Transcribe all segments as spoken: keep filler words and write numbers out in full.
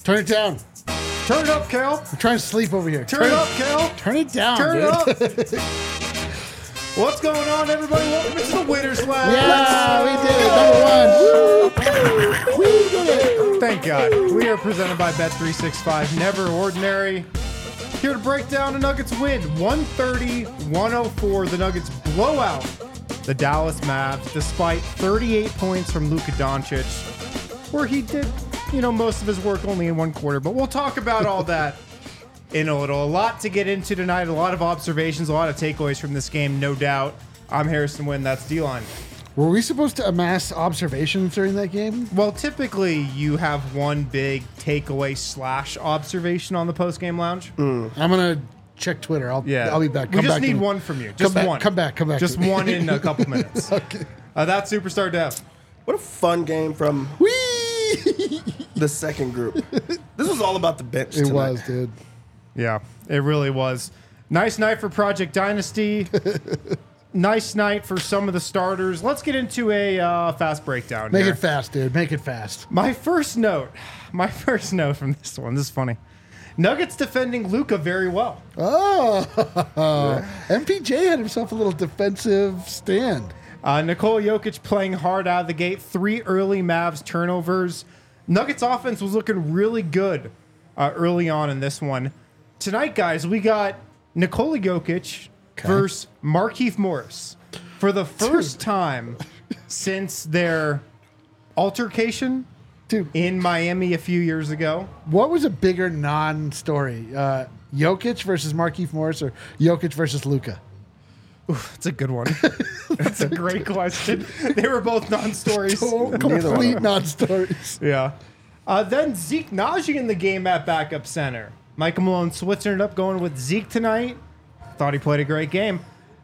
Turn it down. Turn it up, Cal. I'm trying to sleep over here. Turn, Turn it up, Cal. Turn it down, Turn dude. it up. What's going on, everybody? Welcome to the Winner's Lab. Yeah, we did it. Number one. Woo. We did it. Thank God. We are presented by Bet three sixty-five. Never ordinary. Here to break down the Nuggets win. one thirty to one oh four. The Nuggets blow out the Dallas Mavs despite thirty-eight points from Luka Doncic, where he did, you know, most of his work only in one quarter. But we'll talk about all that in a little. A lot to get into tonight. A lot of observations, a lot of takeaways from this game, no doubt. I'm Harrison Wynn. That's D-Line. Were we supposed to amass observations during that game? Well, typically you have one big takeaway slash observation on the post-game lounge. Mm. I'm going to check Twitter. I'll, Yeah. I'll be back. We Come just back to need me. one from you. Come Just back, one. Come back. Come back. Just to me. one in a couple minutes. Okay. Uh, that's Superstar Dev. What a fun game from Whee! the second group. This was all about the bench It tonight. was, dude. Yeah, it really was. Nice night for Project Dynasty. Nice night for some of the starters. Let's get into a uh, fast breakdown Make here. it fast, dude. Make it fast. My first note, my first note from this one, this is funny. Nuggets defending Luka very well. Oh, M P J had himself a little defensive stand. Uh, Nikola Jokic playing hard out of the gate. Three early Mavs turnovers. Nuggets offense was looking really good uh, early on in this one. Tonight, guys, we got Nikola Jokic Okay. versus Markieff Morris for the first time since their altercation Dude, in Miami a few years ago. what was a bigger non-story? Uh, Jokic versus Markieff Morris or Jokic versus Luka? That's a good one. That's a great question. They were both non-stories. Complete non-stories. Yeah. Uh, then Zeke Naji in the game at backup center. Michael Malone switching it up, going with Zeke tonight. Thought he played a great game.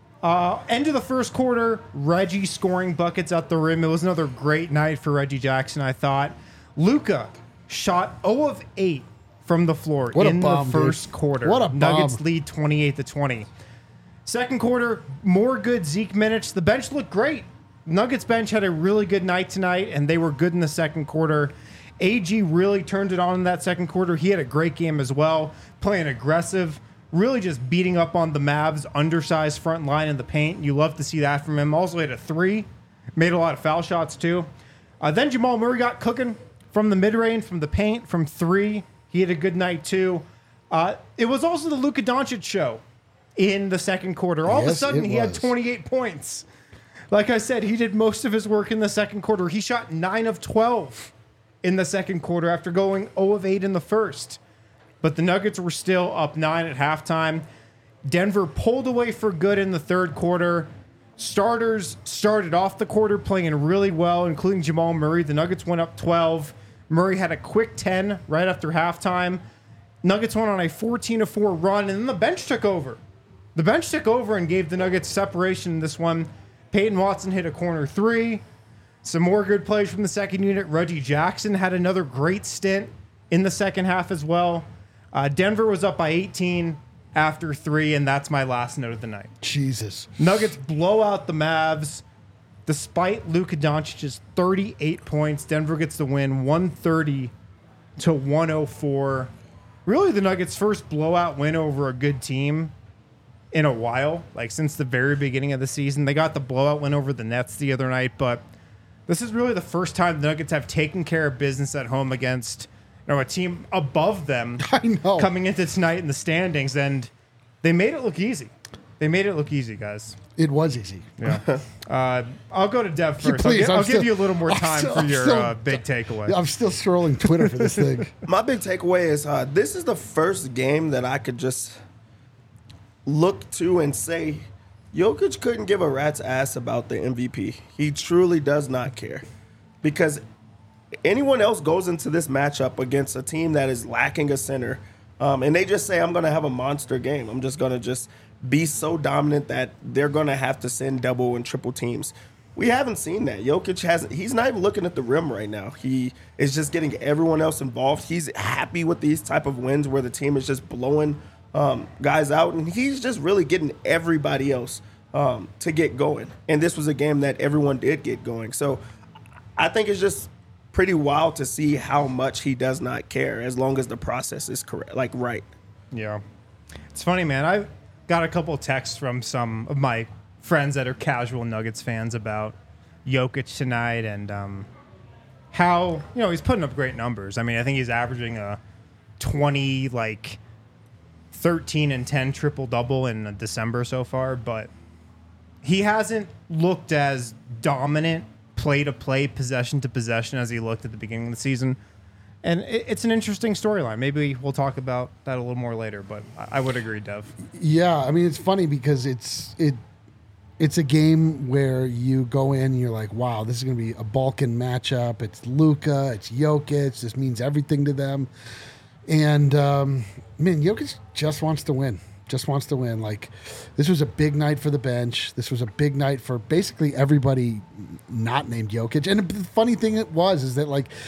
Uh, end of the first quarter, Reggie scoring buckets at the rim. It was another great night for Reggie Jackson, I thought. Luka shot zero of eight from the floor What a in bomb, the first dude. quarter. What a bomb. Nuggets lead twenty-eight to twenty. Second quarter, more good Zeke minutes. The bench looked great. Nuggets bench had a really good night tonight, and they were good in the second quarter. A G really turned it on in that second quarter. He had a great game as well, playing aggressive, really just beating up on the Mavs' undersized front line in the paint. You love to see that from him. Also hit a three, made a lot of foul shots too. Uh, then Jamal Murray got cooking from the mid-range, from the paint, from three. He had a good night too. Uh, it was also the Luka Doncic show in the second quarter. All of a Yes, sudden, it he had was. twenty-eight points. Like I said, he did most of his work in the second quarter. He shot nine of twelve in the second quarter after going zero of eight in the first. But the Nuggets were still up nine at halftime. Denver pulled away for good in the third quarter. Starters started off the quarter playing really well, including Jamal Murray. The Nuggets went up twelve. Murray had a quick ten right after halftime. Nuggets went on a fourteen to four run, and then the bench took over. The bench took over and gave the Nuggets separation in this one. Peyton Watson hit a corner three. Some more good plays from the second unit. Reggie Jackson had another great stint in the second half as well. Uh, Denver was up by eighteen after three, and that's my last note of the night. Jesus. Nuggets blow out the Mavs. Despite Luka Doncic's thirty-eight points, Denver gets the win one thirty to one oh four. Really the Nuggets' first blowout win over a good team in a while, like since the very beginning of the season. They got the blowout win over the Nets the other night, but this is really the first time the Nuggets have taken care of business at home against, you know, a team above them I know. coming into tonight in the standings, and they made it look easy. They made it look easy, guys. It was easy. Yeah. uh, I'll go to Dev first. Please, I'll, gi- I'm I'll still- give you a little more I'm time still- for I'm your still- uh, big takeaway. I'm still scrolling Twitter for this thing. My big takeaway is uh, this is the first game that I could just look to and say, Jokic couldn't give a rat's ass about the M V P. He truly does not care. Because anyone else goes into this matchup against a team that is lacking a center, um, and they just say, I'm going to have a monster game. I'm just going to just be so dominant that they're going to have to send double and triple teams. We haven't seen that. Jokic hasn't. He's not even looking at the rim right now. He is just getting everyone else involved. He's happy with these type of wins where the team is just blowing um, guys out, and he's just really getting everybody else um, to get going. And this was a game that everyone did get going. So I think it's just pretty wild to see how much he does not care as long as the process is correct, like right. Yeah. It's funny, man. I got a couple of texts from some of my friends that are casual Nuggets fans about Jokic tonight and um, how, you know, he's putting up great numbers. I mean, I think he's averaging a twenty, like thirteen and ten triple double in December so far, but he hasn't looked as dominant play to play, possession to possession as he looked at the beginning of the season. And it, it's an interesting storyline. Maybe we'll talk about that a little more later, but I, I would agree, Dev. Yeah, I mean, it's funny because it's it it's a game where you go in and you're like, wow, this is going to be a Balkan matchup. It's Luka, it's Jokic. This means everything to them. And, um, man, Jokic just wants to win. Just wants to win. Like, this was a big night for the bench. This was a big night for basically everybody not named Jokic. And the funny thing it was is that, like,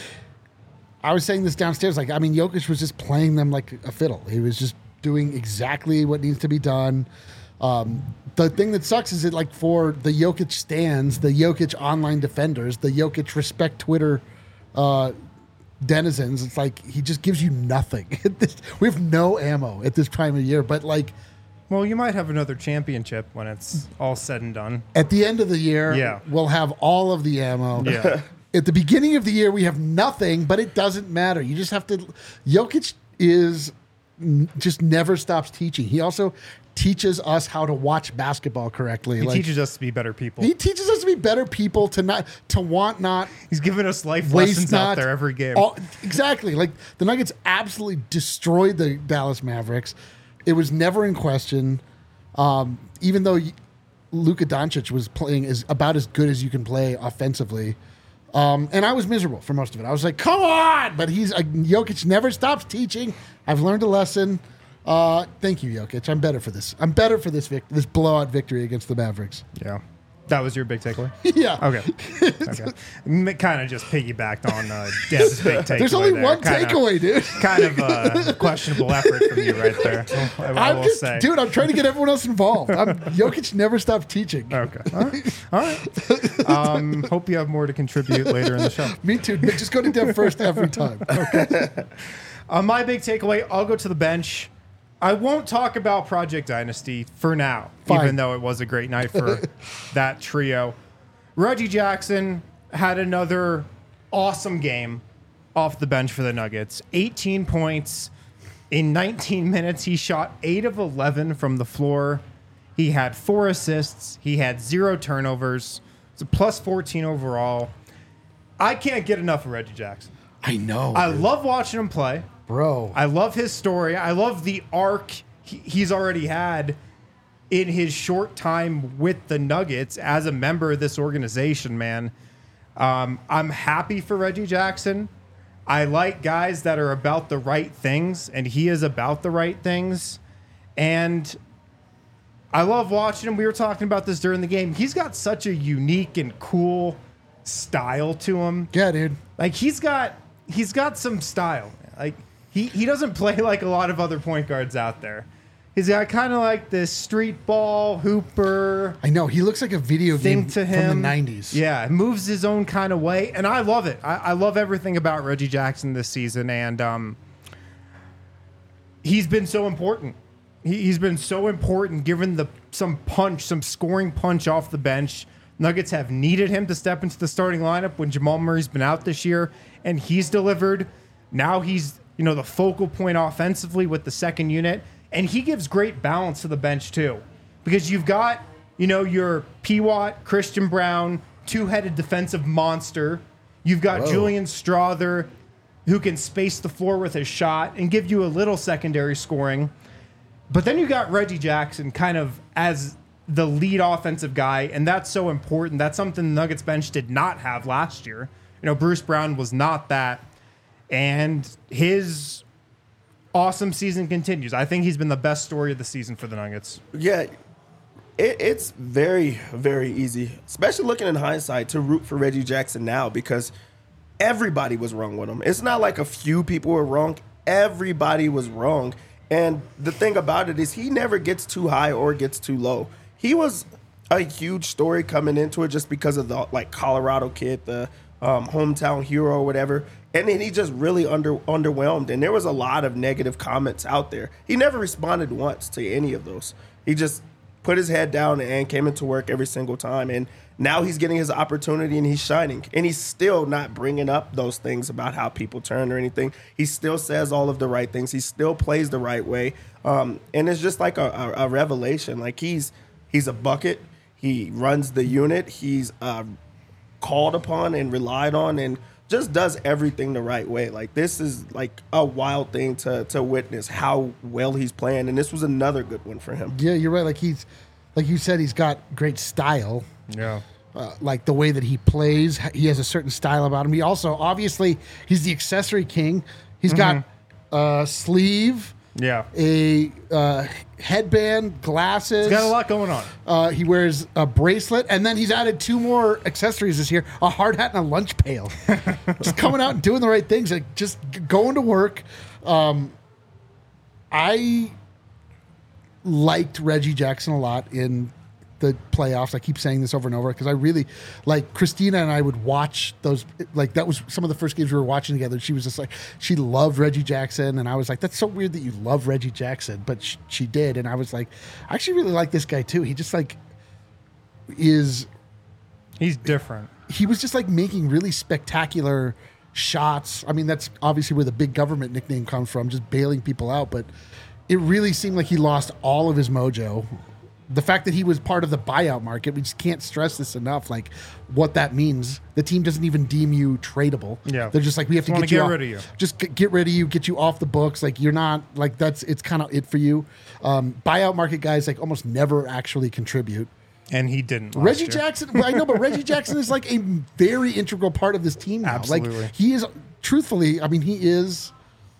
I was saying this downstairs. Like, I mean, Jokic was just playing them like a fiddle. He was just doing exactly what needs to be done. Um, the thing that sucks is that, like, for the Jokic stands, the Jokic online defenders, the Jokic respect Twitter uh, denizens, it's like he just gives you nothing. We have no ammo at this time of year, but, like, Well, you might have another championship when it's all said and done. at the end of the year, Yeah. we'll have all of the ammo. Yeah. At the beginning of the year, we have nothing, but it doesn't matter. You just have to. Jokic is n- just never stops teaching. He also teaches us how to watch basketball correctly. He like, teaches us to be better people. he teaches us to be better people, to not to want not He's giving us life waste lessons not out there every game. all- exactly. Like, the Nuggets absolutely destroyed the Dallas Mavericks. It was never in question. Um, even though Luka Doncic was playing as about as good as you can play offensively. Um, and I was miserable for most of it. I was like, come on! But he's uh, Jokic never stops teaching. I've learned a lesson. Uh, thank you, Jokic. I'm better for this. I'm better for this vic- this blowout victory against the Mavericks. Yeah. That was your big takeaway? Yeah. Okay. Okay. Kind of just piggybacked on uh, Dev's big takeaway. There's only there. one Kinda- takeaway, dude. Kind of a questionable effort from you right there. I, I I'm will just, say. dude. I'm trying to get everyone else involved. I'm, Jokic never stopped teaching. Okay. All right. All right. Um, hope you have more to contribute later in the show. Me too. But just go to Dev first every time. Uh, my big takeaway, I'll go to the bench. I won't talk about Project Dynasty for now, Fine. even though it was a great night for that trio. Reggie Jackson had another awesome game off the bench for the Nuggets. eighteen points in nineteen minutes. He shot eight of eleven from the floor. He had four assists. He had zero turnovers. It's a plus fourteen overall. I can't get enough of Reggie Jackson. I know, I dude. love watching him play. bro. I love his story. I love the arc he- he's already had in his short time with the Nuggets as a member of this organization, man. Um, I'm happy for Reggie Jackson. I like guys that are about the right things, and he is about the right things. And I love watching him. We were talking about this during the game. He's got such a unique and cool style to him. yeah, dude. Like he's got he's got some style. Like he, he doesn't play like a lot of other point guards out there. He's got kind of like this street ball hooper I know. He looks like a video thing game to him from the nineties. Yeah, moves his own kind of way, and I love it. I, I love everything about Reggie Jackson this season, and um, he's been so important. He, he's been so important, given the some punch, some scoring punch off the bench. Nuggets have needed him to step into the starting lineup when Jamal Murray's been out this year, and he's delivered. Now he's, you know, the focal point offensively with the second unit, and he gives great balance to the bench too, because you've got, you know, your P. Watt, Christian Brown, two-headed defensive monster. You've got Whoa. Julian Strother, who can space the floor with his shot and give you a little secondary scoring. But then you got Reggie Jackson kind of as the lead offensive guy, and that's so important. That's something the Nuggets bench did not have last year. You know, Bruce Brown was not that, and his awesome season continues. I think he's been the best story of the season for the Nuggets. Yeah, it, it's very, very easy, especially looking in hindsight, to root for Reggie Jackson now because everybody was wrong with him. It's not like a few people were wrong. Everybody was wrong. And the thing about it is he never gets too high or gets too low. He was a huge story coming into it just because of the like Colorado kid, the um, hometown hero or whatever. And then he just really under underwhelmed. And there was a lot of negative comments out there. He never responded once to any of those. He just put his head down and came into work every single time. And now he's getting his opportunity and he's shining. And he's still not bringing up those things about how people turn or anything. He still says all of the right things. He still plays the right way. Um, and it's just like a, a, a revelation. Like he's he's a bucket. He runs the unit. He's uh, called upon and relied on and just does everything the right way. Like this is like a wild thing to to witness how well he's playing. And this was another good one for him. Yeah, you're right. Like he's, like you said, he's got great style. Yeah. Uh, like the way that he plays, he has a certain style about him. He also, obviously, he's the accessory king. He's got a sleeve, Yeah. a uh, headband, glasses. He's got a lot going on. Uh, he wears a bracelet, and then he's added two more accessories this year: a hard hat and a lunch pail. Just coming out and doing the right things, like just g- going to work. Um, I liked Reggie Jackson a lot in the playoffs. I keep saying this over and over because I really like Christina and I would watch those. Like that was some of the first games we were watching together. She was just like, she loved Reggie Jackson. And I was like, that's so weird that you love Reggie Jackson, but sh- she did. And I was like, I actually really like this guy too. He just like is, He's different. he was just like making really spectacular shots. I mean, that's obviously where the big government nickname comes from, just bailing people out. But it really seemed like he lost all of his mojo. The fact that he was part of the buyout market, we just can't stress this enough. Like what that means. The team doesn't even deem you tradable. Yeah. They're just like, we have to Just get you wanna off, get rid of you. Just get, get rid of you, get you off the books. Like you're not like that's it's kind of it for you. Um, buyout market guys like almost never actually contribute. And he didn't. last Reggie year. Jackson, well, I know, but Reggie Jackson is like a very integral part of this team now. Absolutely. Like he is, truthfully, I mean, he is.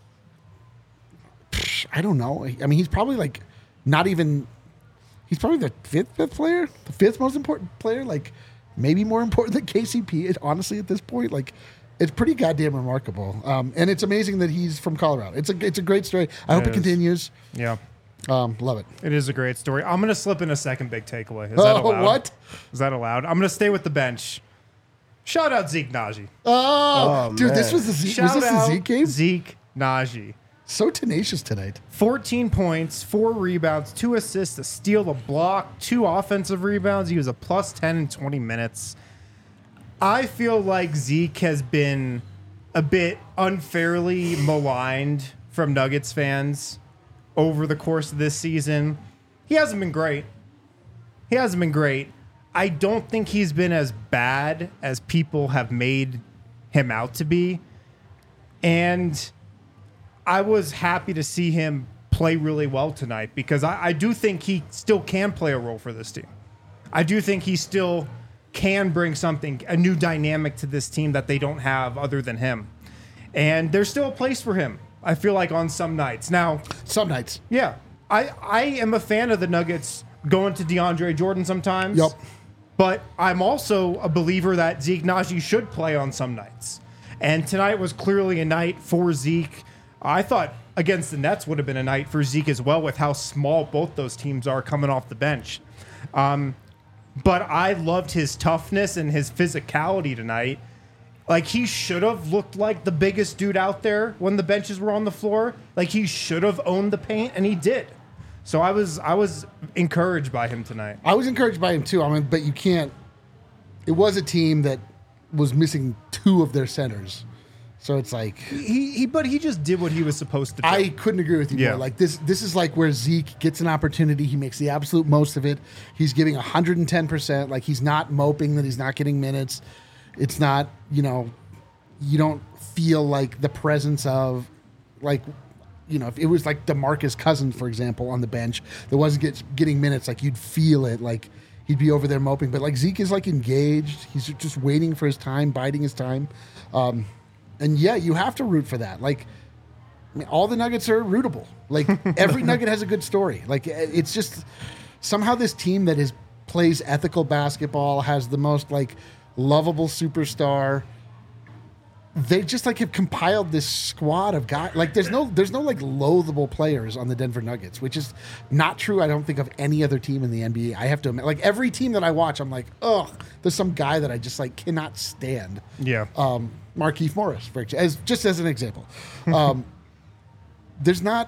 I don't know. I mean, he's probably like not even. He's probably the fifth fifth player, the fifth most important player. Like maybe more important than K C P. It, honestly, at this point, like it's pretty goddamn remarkable. Um, and it's amazing that he's from Colorado. It's a it's a great story. I hope It it is. continues. Yeah. Um, love it. It is a great story. I'm going to slip in a second big takeaway. Is that Oh, allowed? what? Is that allowed? I'm going to stay with the bench. Shout out Zeke Najee. Oh, Oh, dude, this man. was the Zeke, Shout was this out the Zeke game? Zeke Najee. So tenacious tonight. fourteen points, four rebounds, two assists, a steal, a block, two offensive rebounds. He was a plus ten in twenty minutes. I feel like Zeke has been a bit unfairly maligned from Nuggets fans over the course of this season. He hasn't been great. He hasn't been great. I don't think he's been as bad as people have made him out to be. And I was happy to see him play really well tonight because I, I do think he still can play a role for this team. I do think he still can bring something, a new dynamic to this team that they don't have other than him. And there's still a place for him, I feel like, on some nights. Now, Some nights. yeah, I, I am a fan of the Nuggets going to DeAndre Jordan sometimes. Yep. But I'm also a believer that Zeke Najee should play on some nights. And tonight was clearly a night for Zeke. I thought against the Nets would have been a night for Zeke as well with how small both those teams are coming off the bench. Um, but I loved his toughness and his physicality tonight. Like, he should have looked like the biggest dude out there when the benches were on the floor. Like, he should have owned the paint, and he did. So I was I was encouraged by him tonight. I was encouraged by him too. I mean, but you can't. It was a team that was missing two of their centers, so it's like He, he but he just did what he was supposed to do. I couldn't agree with you Yeah. more. Like this, this is like where Zeke gets an opportunity. He makes the absolute most of it. He's giving one hundred ten percent. Like he's not moping that he's not getting minutes. It's not, you know, you don't feel like the presence of, like, you know, if it was like DeMarcus Cousins, for example, on the bench that wasn't get, getting minutes, like you'd feel it. Like he'd be over there moping. But like Zeke is like engaged. He's just waiting for his time, biding his time. Um, and yeah, you have to root for that. Like, I mean, all the Nuggets are rootable. Like every Nugget has a good story. Like it's just somehow this team that is plays ethical basketball has the most like lovable superstar. they just like have compiled this squad of guys. Like there's no there's no like loathable players on the Denver Nuggets, which is not true. I don't think of any other team in the N B A. I have to admit, like every team that I watch, I'm like, oh, there's some guy that I just like cannot stand. Yeah. Um, Markieff Morris, for ex- as just as an example. Um, there's not.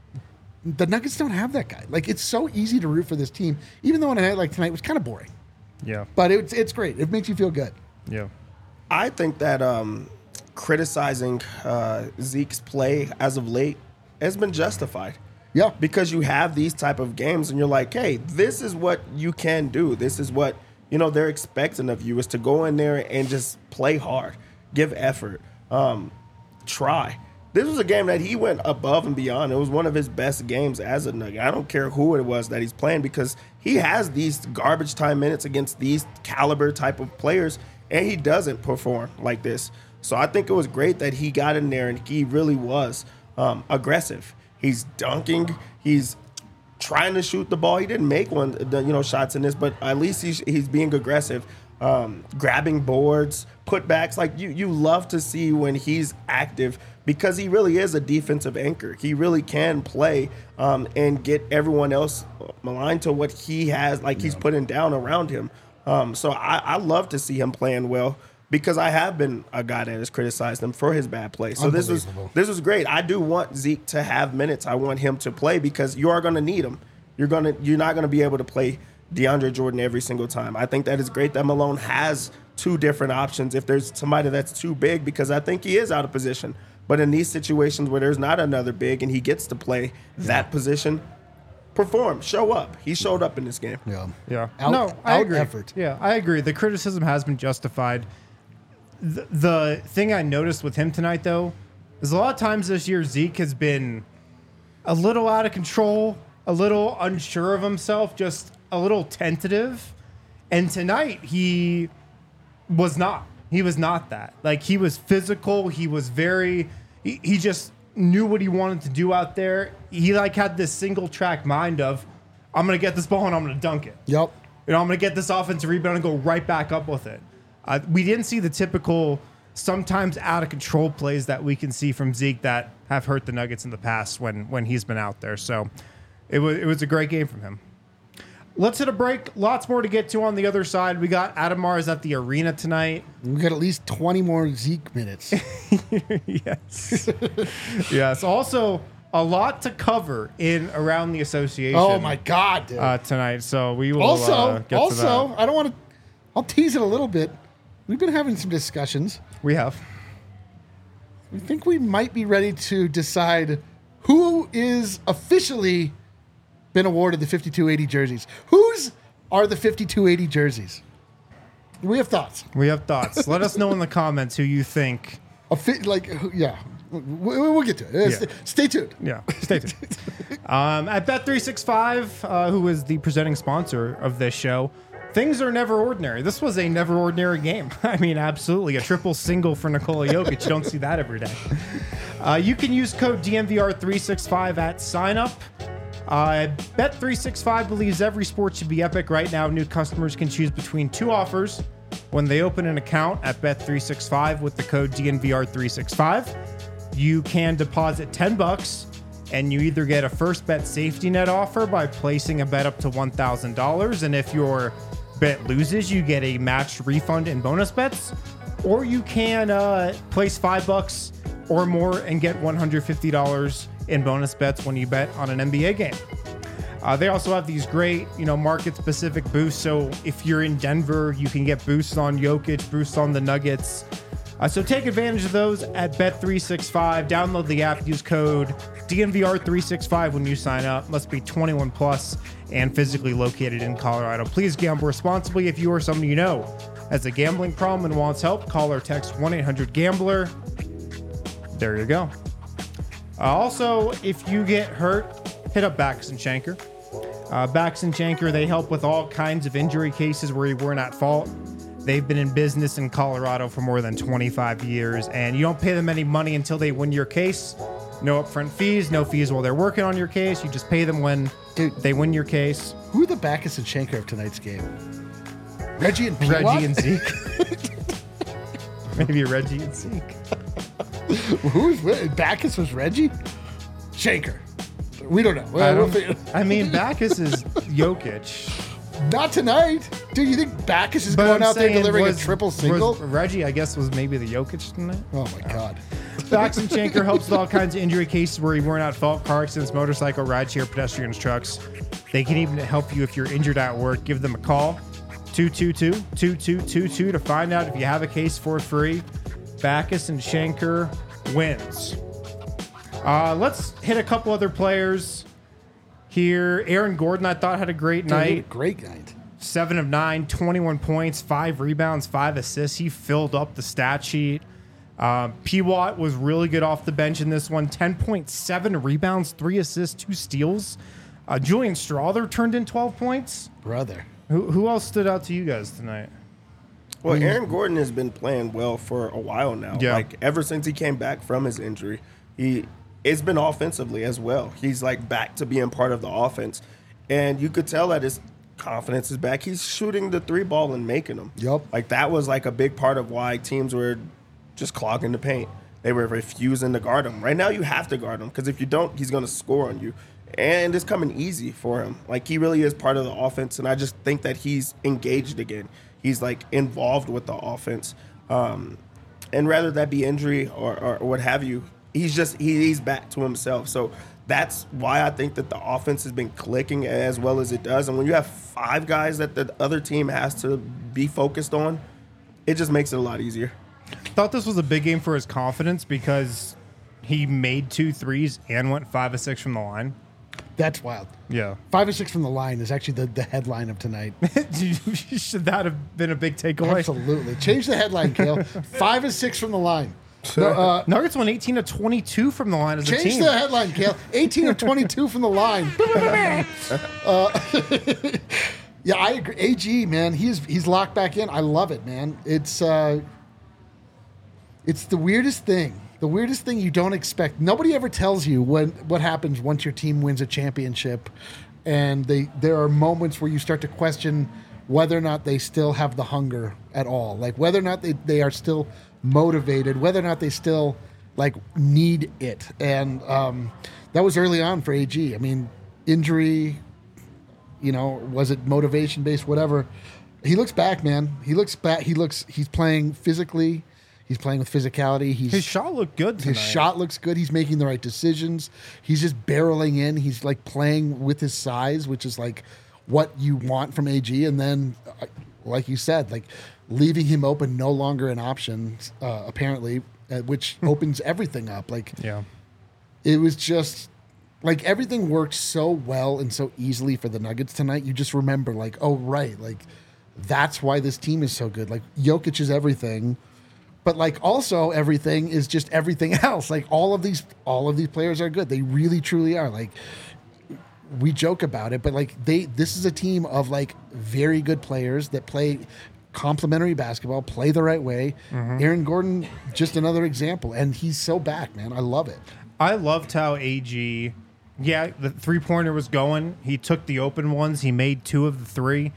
The Nuggets don't have that guy. Like it's so easy to root for this team, even though on a night like tonight was kind of boring. Yeah. But it's it's great. It makes you feel good. Yeah. I think that um, criticizing uh, Zeke's play as of late has been justified. Yeah. Because you have these type of games and you're like, hey, this is what you can do. This is what, you know, they're expecting of you is to go in there and just play hard, give effort, um, try. This was a game that he went above and beyond. It was one of his best games as a Nugget. I don't care who it was that he's playing because he has these garbage time minutes against these caliber type of players, and he doesn't perform like this. So I think it was great that he got in there and he really was um, aggressive. He's dunking. He's trying to shoot the ball. He didn't make one, the, you know, shots in this, but at least he's he's being aggressive, um, grabbing boards, putbacks. Like you, you love to see when he's active because he really is a defensive anchor. He really can play um, and get everyone else aligned to what he has, like he's putting down around him. Um, so I, I love to see him playing well. Because I have been a guy that has criticized him for his bad play. So this was this was great. I do want Zeke to have minutes. I want him to play because you are going to need him. You're gonna you're not going to be able to play DeAndre Jordan every single time. I think that is great that Malone has two different options if there's somebody that's too big because I think he is out of position. But in these situations where there's not another big and he gets to play that position, perform, show up. He showed up in this game. Yeah. Yeah. Out, no, I out agree. effort. Yeah, I agree. The criticism has been justified. The, the thing I noticed with him tonight, though, is a lot of times this year Zeke has been a little out of control, a little unsure of himself, just a little tentative. And tonight he was not. He was not that. Like he was physical. He was very. He, he just knew what he wanted to do out there. He like had this single track mind of, I'm gonna get this ball and I'm gonna dunk it. Yep. You know, I'm gonna get this offensive rebound and go right back up with it. Uh, we didn't see the typical, sometimes out of control plays that we can see from Zeke that have hurt the Nuggets in the past when when he's been out there. So it was it was a great game from him. Let's hit a break. Lots more to get to on the other side. We got Adam Mars at the arena tonight. We got at least twenty more Zeke minutes. Yes. Yes. Also, a lot to cover in around the association. Oh my God, dude. Uh, tonight. So we will also, uh, get also, to that. I don't want to. I'll tease it a little bit. We've been having some discussions. We have. We think we might be ready to decide who is officially been awarded the fifty-two eighty jerseys. Whose are the fifty-two eighty jerseys? We have thoughts. We have thoughts. Let us know in the comments who you think. A fi- like, who- yeah, we- we'll get to it. Uh, Yeah. st- Stay tuned. Yeah, stay tuned. um, at Bet three sixty-five, uh, who is the presenting sponsor of this show, things are never ordinary. This was a never ordinary game. I mean, absolutely. A triple single for Nikola Jokic. You don't see that every day. Uh, you can use code D N V R three sixty-five at sign up. Uh, Bet three sixty-five believes every sport should be epic. Right now, new customers can choose between two offers when they open an account at Bet three sixty-five with the code D N V R three sixty-five. You can deposit ten bucks and you either get a first bet safety net offer by placing a bet up to one thousand dollars. And if your bet loses, you get a matched refund in bonus bets, or you can uh, place five bucks or more and get one hundred fifty dollars in bonus bets when you bet on an N B A game. Uh, they also have these great, you know, market-specific boosts. So if you're in Denver, you can get boosts on Jokic, boosts on the Nuggets. Uh, so take advantage of those at Bet three sixty-five. Download the app. Use code D N V R three sixty-five when you sign up. Must be twenty-one plus and physically located in Colorado. Please gamble responsibly. If you or someone you know has a gambling problem and wants help, call or text one eight hundred gambler. There you go. Uh, also, if you get hurt, hit up Backus and Shanker. Uh, Backus and Shanker, they help with all kinds of injury cases where you weren't at fault. They've been in business in Colorado for more than twenty-five years, and you don't pay them any money until they win your case. No upfront fees, no fees while they're working on your case. You just pay them when Dude. they win your case. Who are the Backus and Shanker of tonight's game? Reggie and P. Reggie and Zeke. Maybe Reggie and Zeke. Who's Backus was Reggie? Shaker. We don't know. I, Well, we'll don't, figure- I mean, Backus is Jokic. Not tonight. Dude, you think Backus is But going I'm out there saying delivering was- a triple was single? Reggie, I guess, was maybe the Jokic tonight. Oh my God. Bax and Shanker helps with all kinds of injury cases where you weren't at fault: car accidents, motorcycle, rideshare, pedestrians, trucks. They can even help you if you're injured at work. Give them a call, two two two, two two two two, to find out if you have a case for free. Backus and Shanker wins. Uh, let's hit a couple other players here. Aaron Gordon, I thought, had a great Dude, he had a night. great night. Seven of nine, twenty-one points, five rebounds, five assists. He filled up the stat sheet. Um, P. Watt was really good off the bench in this one. ten point seven rebounds, three assists, two steals. Uh, Julian Strawther turned in twelve points. Brother. Who, who else stood out to you guys tonight? Well, Aaron Gordon has been playing well for a while now. Yeah. Like ever since he came back from his injury, he it's been offensively as well. He's like back to being part of the offense, and you could tell that his confidence is back. He's shooting the three ball and making them. Yup. Like that was like a big part of why teams were just clogging the paint. They were refusing to guard him. Right now, you have to guard him because if you don't, he's going to score on you. And it's coming easy for him. Like he really is part of the offense, and I just think that he's engaged again. He's like involved with the offense, um, and rather that be injury or, or, or what have you, he's just he, he's back to himself. So that's why I think that the offense has been clicking as well as it does. And when you have five guys that the other team has to be focused on, it just makes it a lot easier. Thought this was a big game for his confidence because he made two threes and went five or six from the line. That's wild. Yeah. Five or six from the line is actually the, the headline of tonight. Should that have been a big takeaway? Absolutely. Change the headline, Kale. Five or six from the line. No, uh, Nuggets won eighteen to twenty-two from the line as a change team. the headline, Kale. eighteen of twenty-two from the line. uh, yeah, I agree. A G, man, he's he's locked back in. I love it, man. It's uh, it's the weirdest thing. The weirdest thing you don't expect. Nobody ever tells you when what happens once your team wins a championship, and they there are moments where you start to question whether or not they still have the hunger at all, like whether or not they, they are still motivated, whether or not they still like need it. And um, that was early on for A G. I mean, injury, you know, was it motivation based, whatever. He looks back, man. He looks back. He looks. He's playing physically. He's playing with physicality. He's, His shot looked good tonight. his shot looks good. He's making the right decisions. He's just barreling in. He's like playing with his size, which is like what you want from A G. And then, uh, like you said, like leaving him open no longer an option, uh, apparently, uh, which opens everything up. Like Yeah. it was just like everything worked so well and so easily for the Nuggets tonight. You just remember like, oh, right. Like that's why this team is so good. Like Jokic is everything. But like also everything is just everything else. Like all of these, all of these players are good. They really, truly are. Like we joke about it, but like they, this is a team of like very good players that play complementary basketball, play the right way. Mm-hmm. Aaron Gordon, just another example, and he's so back, man. I love it. I loved how A G, yeah, the three pointer was going. He took the open ones. He made two of the three.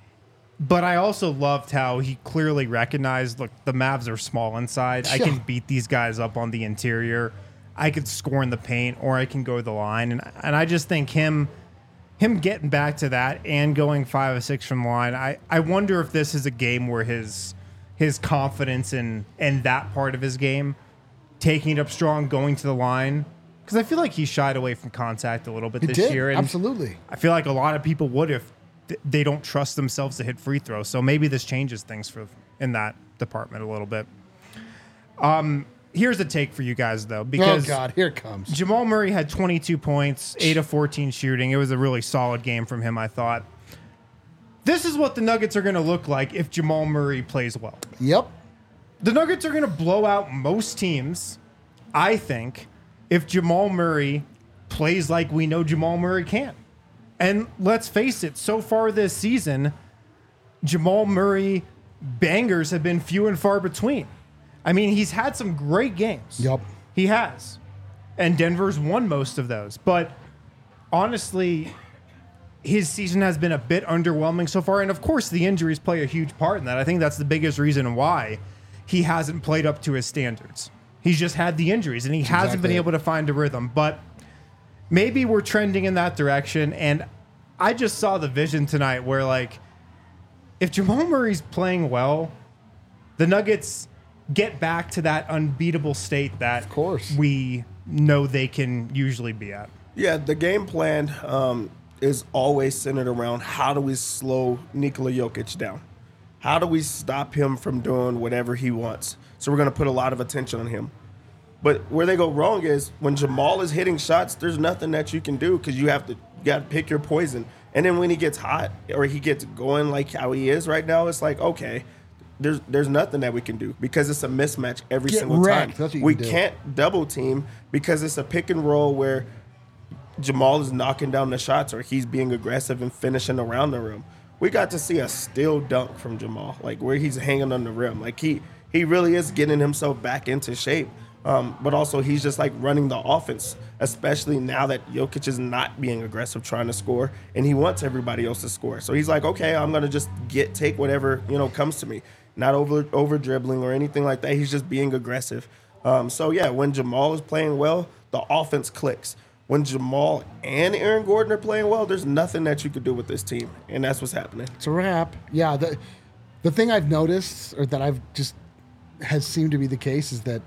But I also loved how he clearly recognized, look, the Mavs are small inside. I can beat these guys up on the interior. I could score in the paint, or I can go to the line. And and I just think him him getting back to that and going five or six from the line, I, I wonder if this is a game where his his confidence in, in that part of his game, taking it up strong, going to the line, because I feel like he shied away from contact a little bit He this did, year. And absolutely. I feel like a lot of people would if th- they don't trust themselves to hit free throws. So maybe this changes things for in that department a little bit. Um, here's a take for you guys though, because Oh God, here it comes. Jamal Murray had twenty-two points, eight of fourteen shooting. It was a really solid game from him, I thought. This is what the Nuggets are going to look like if Jamal Murray plays well. Yep. The Nuggets are going to blow out most teams, I think, if Jamal Murray plays like we know Jamal Murray can. And let's face it, so far this season, Jamal Murray bangers have been few and far between. I mean, he's had some great games. Yep. He has. And Denver's won most of those. But honestly, his season has been a bit underwhelming so far. And of course, the injuries play a huge part in that. I think that's the biggest reason why he hasn't played up to his standards. He's just had the injuries, and he hasn't exactly been it. able to find a rhythm. But maybe we're trending in that direction. And I just saw the vision tonight where, like, if Jamal Murray's playing well, the Nuggets get back to that unbeatable state that Of course. we know they can usually be at. Yeah, the game plan um, is always centered around how do we slow Nikola Jokic down? How do we stop him from doing whatever he wants? So we're going to put a lot of attention on him. But where they go wrong is when Jamal is hitting shots, there's nothing that you can do because you have to you got to pick your poison. And then when he gets hot or he gets going like how he is right now, it's like, okay, there's there's nothing that we can do because it's a mismatch every Get single wrecked. time. That's what you We can do. can't double team because it's a pick and roll where Jamal is knocking down the shots or he's being aggressive and finishing around the rim. We got to see a still dunk from Jamal, like where he's hanging on the rim. Like he he really is getting himself back into shape. Um, but also he's just like running the offense, especially now that Jokic is not being aggressive trying to score and he wants everybody else to score. So he's like, okay, I'm gonna just get take whatever, you know, comes to me. Not over over dribbling or anything like that. He's just being aggressive. Um, so yeah, when Jamal is playing well, the offense clicks. When Jamal and Aaron Gordon are playing well, there's nothing that you could do with this team, and that's what's happening. It's a wrap. Yeah. The the thing I've noticed, or that I've just has seemed to be the case, is that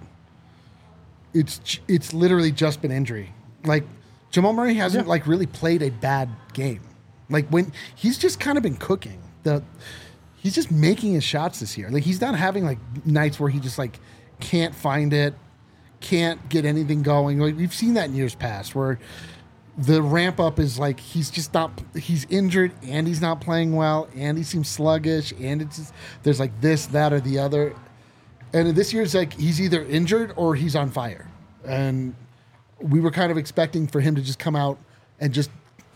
it's j- it's literally just been injury. Like Jamal Murray hasn't Yeah. like really played a bad game. Like when he's just kind of been cooking. The he's just making his shots this year. Like he's not having like nights where he just like can't find it, can't get anything going. Like we've seen that in years past where the ramp up is like he's just not he's injured and he's not playing well and he seems sluggish and it's just, there's like this, that, or the other. And this year's like he's either injured or he's on fire. And we were kind of expecting for him to just come out and just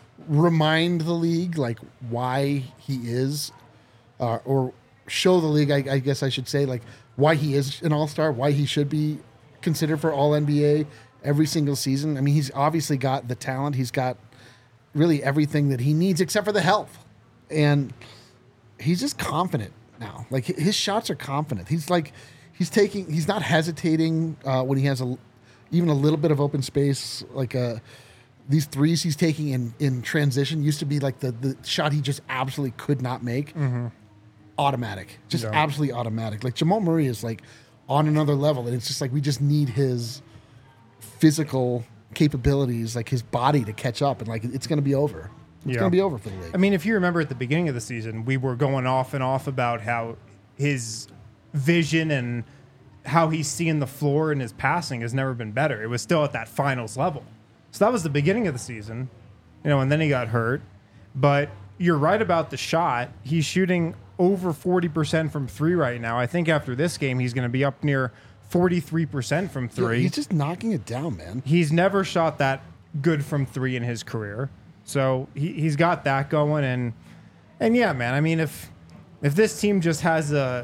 remind the league like why he is, uh, or show the league, I, I guess I should say, like why he is an all-star, why he should be considered for all N B A every single season. I mean, he's obviously got the talent. He's got really everything that he needs except for the health. And he's just confident now. Like his shots are confident. He's like, he's taking, he's not hesitating uh, when he has a, even a little bit of open space. Like uh, these threes he's taking in, in transition used to be like the, the shot he just absolutely could not make. Mm-hmm. Automatic, just Yeah. absolutely automatic. Like Jamal Murray is like on another level. And it's just like, we just need his physical capabilities, like his body to catch up. And like, it's going to be over. It's Yeah. going to be over for the league. I mean, if you remember at the beginning of the season, we were going off and off about how his vision and how he's seeing the floor and his passing has never been better. It was still at that finals level. So that was the beginning of the season, you know, and then he got hurt. But you're right about the shot. He's shooting over forty percent from three right now. I think after this game, he's going to be up near forty-three percent from Yeah, three. he's just knocking it down, man. He's never shot that good from three in his career. So he, he's got that going. And and yeah, man, I mean, if if this team just has a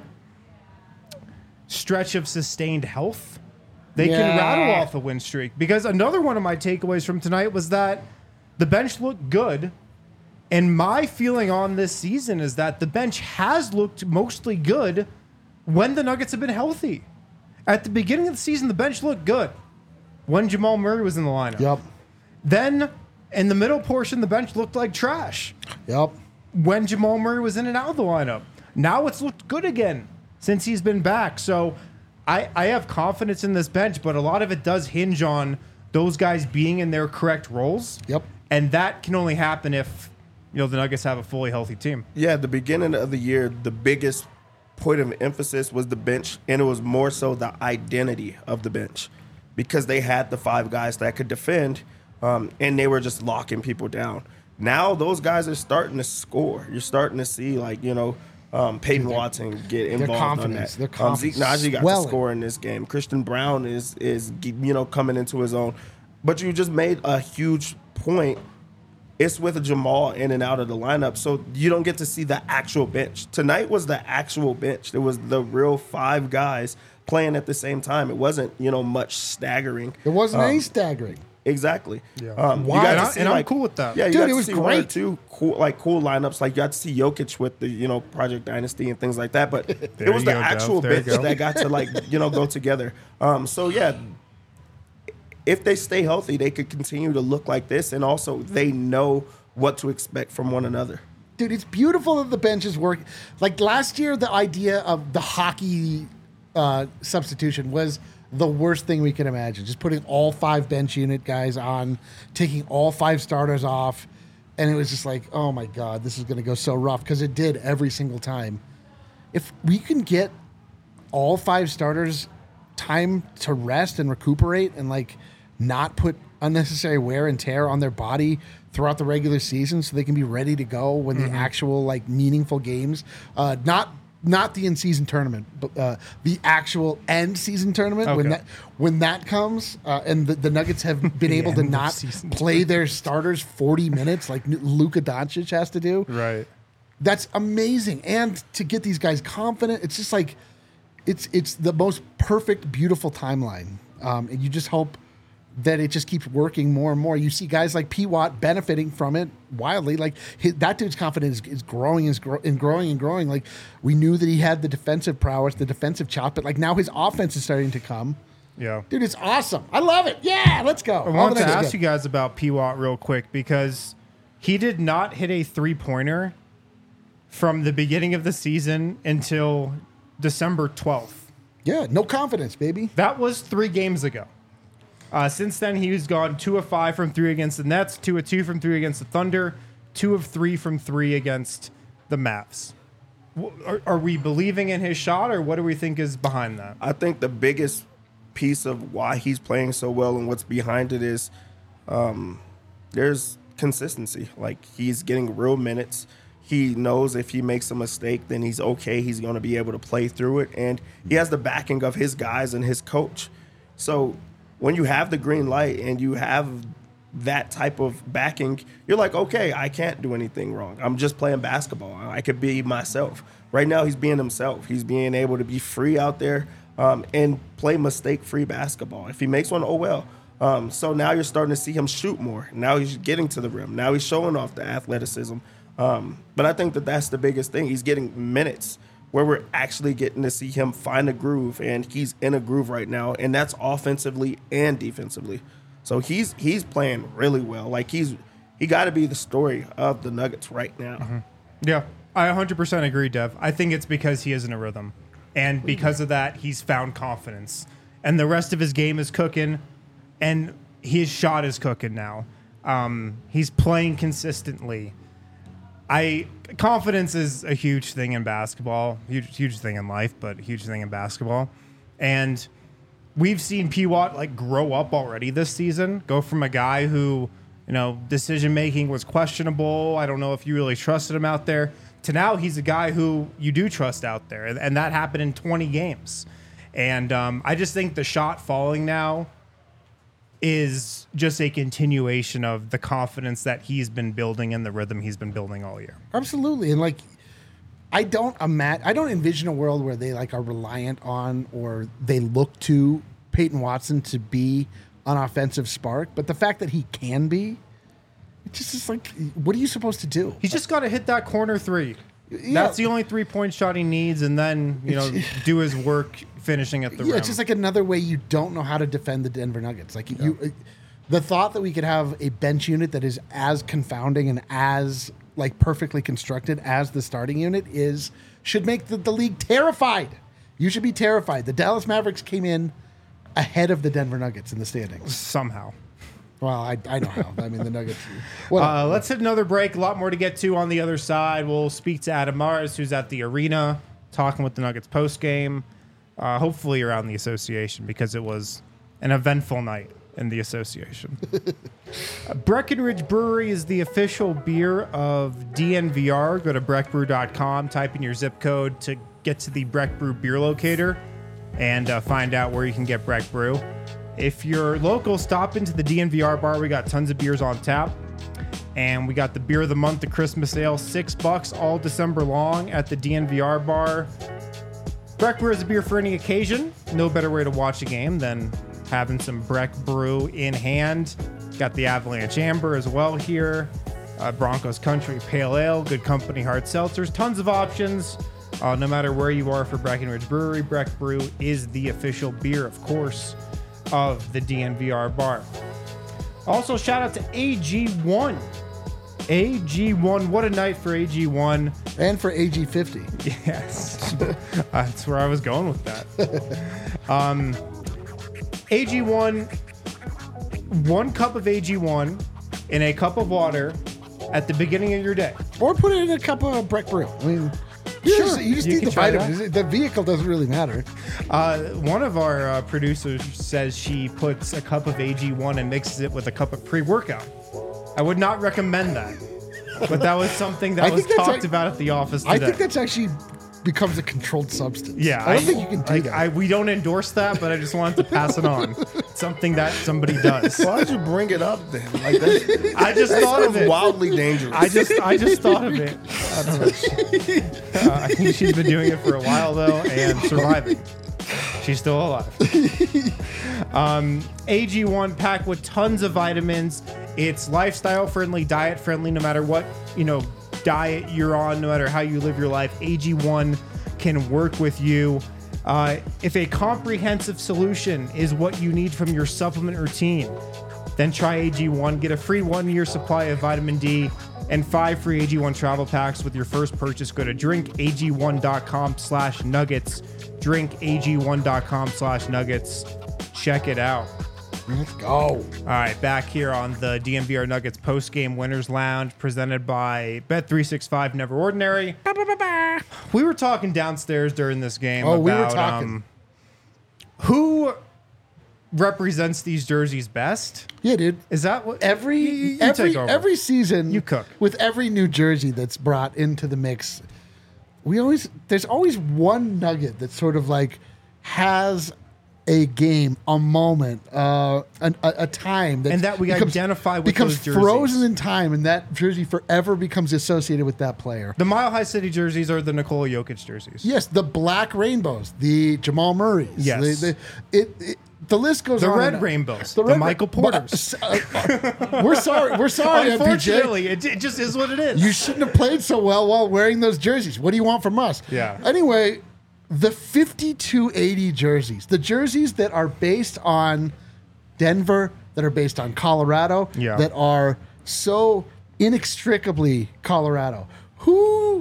stretch of sustained health, they Yeah. can rattle off a win streak. Because another one of my takeaways from tonight was that the bench looked good. And my feeling on this season is that the bench has looked mostly good when the Nuggets have been healthy. At the beginning of the season, the bench looked good when Jamal Murray was in the lineup. Yep. Then in the middle portion, the bench looked like trash Yep. when Jamal Murray was in and out of the lineup. Now it's looked good again since he's been back. So I, I have confidence in this bench, but a lot of it does hinge on those guys being in their correct roles. Yep. And that can only happen if, you know, the Nuggets have a fully healthy team. Yeah, at the beginning of the year, the biggest point of emphasis was the bench, and it was more so the identity of the bench because they had the five guys that could defend, um, and they were just locking people down. Now those guys are starting to score. You're starting to see, like, you know, um, Peyton Watson get involved on confidence, that. their Um, Zeke confidence Naji got swelling. to score in this game. Christian Brown is is you know coming into his own. But you just made a huge point. It's with Jamal in and out of the lineup, so you don't get to see the actual bench. Tonight was the actual bench. It was the real five guys playing at the same time. It wasn't, you know, much staggering. There wasn't Um, any staggering. Exactly. Yeah. Um, Why? You got And to I- see, and I'm like, cool with that. Yeah, you Dude, got it to was see one or great. two cool, like cool lineups. Like you got to see Jokic with the you know Project Dynasty and things like that. But There it was you the go, actual Dev. There you bits go. that got to like you know go together. Um, so yeah, if they stay healthy, they could continue to look like this, and also they know what to expect from one another. Dude, it's beautiful that the bench is working. Like last year, the idea of the hockey uh, substitution was the worst thing we could imagine. Just putting all five bench unit guys on, taking all five starters off. And it was just like, oh my God, this is going to go so rough, because it did every single time. If we can get all five starters time to rest and recuperate and like not put unnecessary wear and tear on their body throughout the regular season so they can be ready to go when Mm-hmm. the actual like meaningful games, uh, not not the in-season tournament, but uh, the actual end season tournament when Okay. that when that comes, uh, and the, the Nuggets have been able to end of not season play their starters forty minutes like Luka Doncic has to do. Right. That's amazing. And to get these guys confident, it's just like it's it's the most perfect, beautiful timeline. Um, and you just hope that it just keeps working more and more. You see guys like P. Watt benefiting from it wildly. Like his, that dude's confidence is, is growing is gro- and growing and growing. Like we knew that he had the defensive prowess, the defensive chop, but like now his offense is starting to come. Yeah. Dude, it's awesome. I love it. Yeah, let's go. I wanted to ask you guys about P. Watt real quick because he did not hit a three-pointer from the beginning of the season until December twelfth. Yeah, no confidence, baby. That was three games ago. Uh, since then, he's gone two of five from three against the Nets, two of two from three against the Thunder, two of three from three against the Mavs. W- Are, are we believing in his shot, or what do we think is behind that? I think the biggest piece of why he's playing so well and what's behind it is um, there's consistency. Like he's getting real minutes. He knows if he makes a mistake, then he's okay. He's going to be able to play through it. And he has the backing of his guys and his coach. So when you have the green light and you have that type of backing, you're like, okay, I can't do anything wrong. I'm just playing basketball. I could be myself. Right now, he's being himself. He's being able to be free out there um, and play mistake-free basketball. If he makes one, oh well. Um, so now you're starting to see him shoot more. Now he's getting to the rim. Now he's showing off the athleticism. Um, but I think that that's the biggest thing. He's getting minutes where we're actually getting to see him find a groove, and he's in a groove right now, and that's offensively and defensively. So he's he's playing really well. Like he's he got to be the story of the Nuggets right now. Mm-hmm. Yeah, I one hundred percent agree, Dev. I think it's because he is in a rhythm, and because of that, he's found confidence, and the rest of his game is cooking, and his shot is cooking now. Um, he's playing consistently. I confidence is a huge thing in basketball, huge huge thing in life, but a huge thing in basketball. And we've seen P. Watt like grow up already this season, go from a guy who, you know, decision making was questionable. I don't know if you really trusted him out there, to now he's a guy who you do trust out there, and, and that happened in twenty games. And um, I just think the shot falling now is just a continuation of the confidence that he's been building and the rhythm he's been building all year. Absolutely. And like I don't imagine I don't envision a world where they like are reliant on or they look to Peyton Watson to be an offensive spark, but the fact that he can be, it just is like, what are you supposed to do? He's just got to hit that corner three. Yeah. That's the only three point shot he needs, and then, you know, do his work finishing at the Yeah, rim. it's just like another way you don't know how to defend the Denver Nuggets. Like you, the thought that we could have a bench unit that is as confounding and as like perfectly constructed as the starting unit is should make the, the league terrified. You should be terrified. The Dallas Mavericks came in ahead of the Denver Nuggets in the standings. somehow. Well, I, I know how. I mean, the Nuggets. Well, Uh, let's hit another break. A lot more to get to on the other side. We'll speak to Adam Mars, who's at the arena, talking with the Nuggets post game. Uh, hopefully around the association, because it was an eventful night in the association. uh, Breckenridge Brewery is the official beer of D N V R. Go to breck brew dot com, type in your zip code to get to the Breck Brew beer locator and uh, find out where you can get Breck Brew. If you're local, stop into the D N V R bar. We got tons of beers on tap. And we got the beer of the month, the Christmas ale, six bucks all December long at the D N V R bar. Breck Brew is a beer for any occasion. No better way to watch a game than having some Breck Brew in hand. Got the Avalanche Amber as well here. Uh, Broncos Country Pale Ale, Good Company Hard Seltzers, tons of options. Uh, no matter where you are for Breckenridge Brewery, Breck Brew is the official beer, of course, of the D N V R bar. Also, shout out to A G one. A G one, what a night for A G one. And for A G fifty. Yes. That's where I was going with that. um, A G one, one cup of A G one in a cup of water at the beginning of your day. Or put it in a cup of Breck Brew. I mean, you Sure, just, you just you need can the try vitamins. The vehicle doesn't really matter. Uh, one of our uh, producers says she puts a cup of A G one and mixes it with a cup of pre-workout. I would not recommend that. But that was something that I was think that's talked like- about at the office today. I think that's actually becomes a controlled substance. Yeah, I don't think you can do like, that. I, we don't endorse that, but I just wanted to pass it on. It's something that somebody does. Why did you bring it up then? Like that, I just that thought of sounds it. wildly dangerous. I just, I just thought of it. I don't know. She- uh, I think she's been doing it for a while though, and surviving. She's still alive. um, A G one packed with tons of vitamins. It's lifestyle friendly, diet friendly. No matter what you know diet you're on, no matter how you live your life, A G one can work with you. Uh, if a comprehensive solution is what you need from your supplement routine, then try A G one. Get a free one-year supply of vitamin D and five free A G one travel packs with your first purchase. Go to drink A G one dot com slash nuggets. drink A G one dot com slash nuggets. Check it out. Let's go. All right, back here on the D N V R Nuggets post-game winners lounge presented by Bet three sixty-five Never Ordinary. We were talking downstairs during this game Oh, about we were talking. Um, who represents these jerseys best. Yeah, dude. Is that what Every you, you every take over. every season, You cook. with every new jersey that's brought into the mix. We always there's always one nugget that sort of like has a game, a moment, uh, an, a, a time that And that we becomes, identify with becomes those jerseys. frozen in time, and that jersey forever becomes associated with that player. The Mile High City jerseys are the Nikola Jokic jerseys. Yes, the black rainbows, the Jamal Murrays. Yes. the, the, it, it, the list goes The on. red and- rainbows, the red Michael ra- Porters. uh, uh, we're sorry. We're sorry, M P J. Unfortunately, it, it just is what it is. You shouldn't have played so well while wearing those jerseys. What do you want from us? Yeah. Anyway, the fifty-two eighty jerseys, the jerseys that are based on Denver, that are based on Colorado, Yeah. that are so inextricably Colorado. Who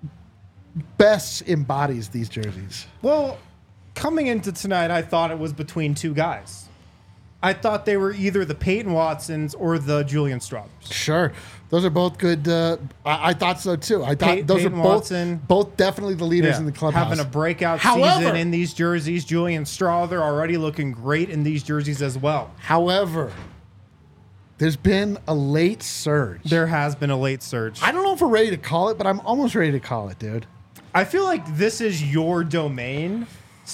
best embodies these jerseys? Well, coming into tonight, I thought it was between two guys. I thought they were either the Peyton Watsons or the Julian Straubers. Sure. Those are both good. Uh, I, I thought so too. I thought Pey- those Peyton are both Watson. both definitely the leaders in the clubhouse. Having a breakout However- season in these jerseys. Julian Strother already looking great in these jerseys as well. However, there's been a late surge. There has been a late surge. I don't know if we're ready to call it, but I'm almost ready to call it, dude. I feel like this is your domain,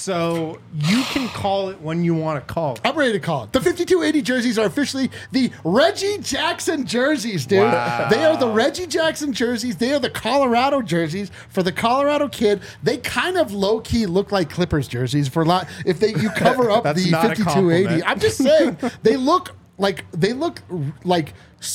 so you can call it when you want to call it. I'm ready to call it. The fifty-two eighty jerseys are officially the Reggie Jackson jerseys, dude. Wow. They are the Reggie Jackson jerseys. They are the Colorado jerseys for the Colorado kid. They kind of low key look like Clippers jerseys for a lot. If they you cover up That's the not a fifty-two eighty, compliment. I'm just saying they look like they look like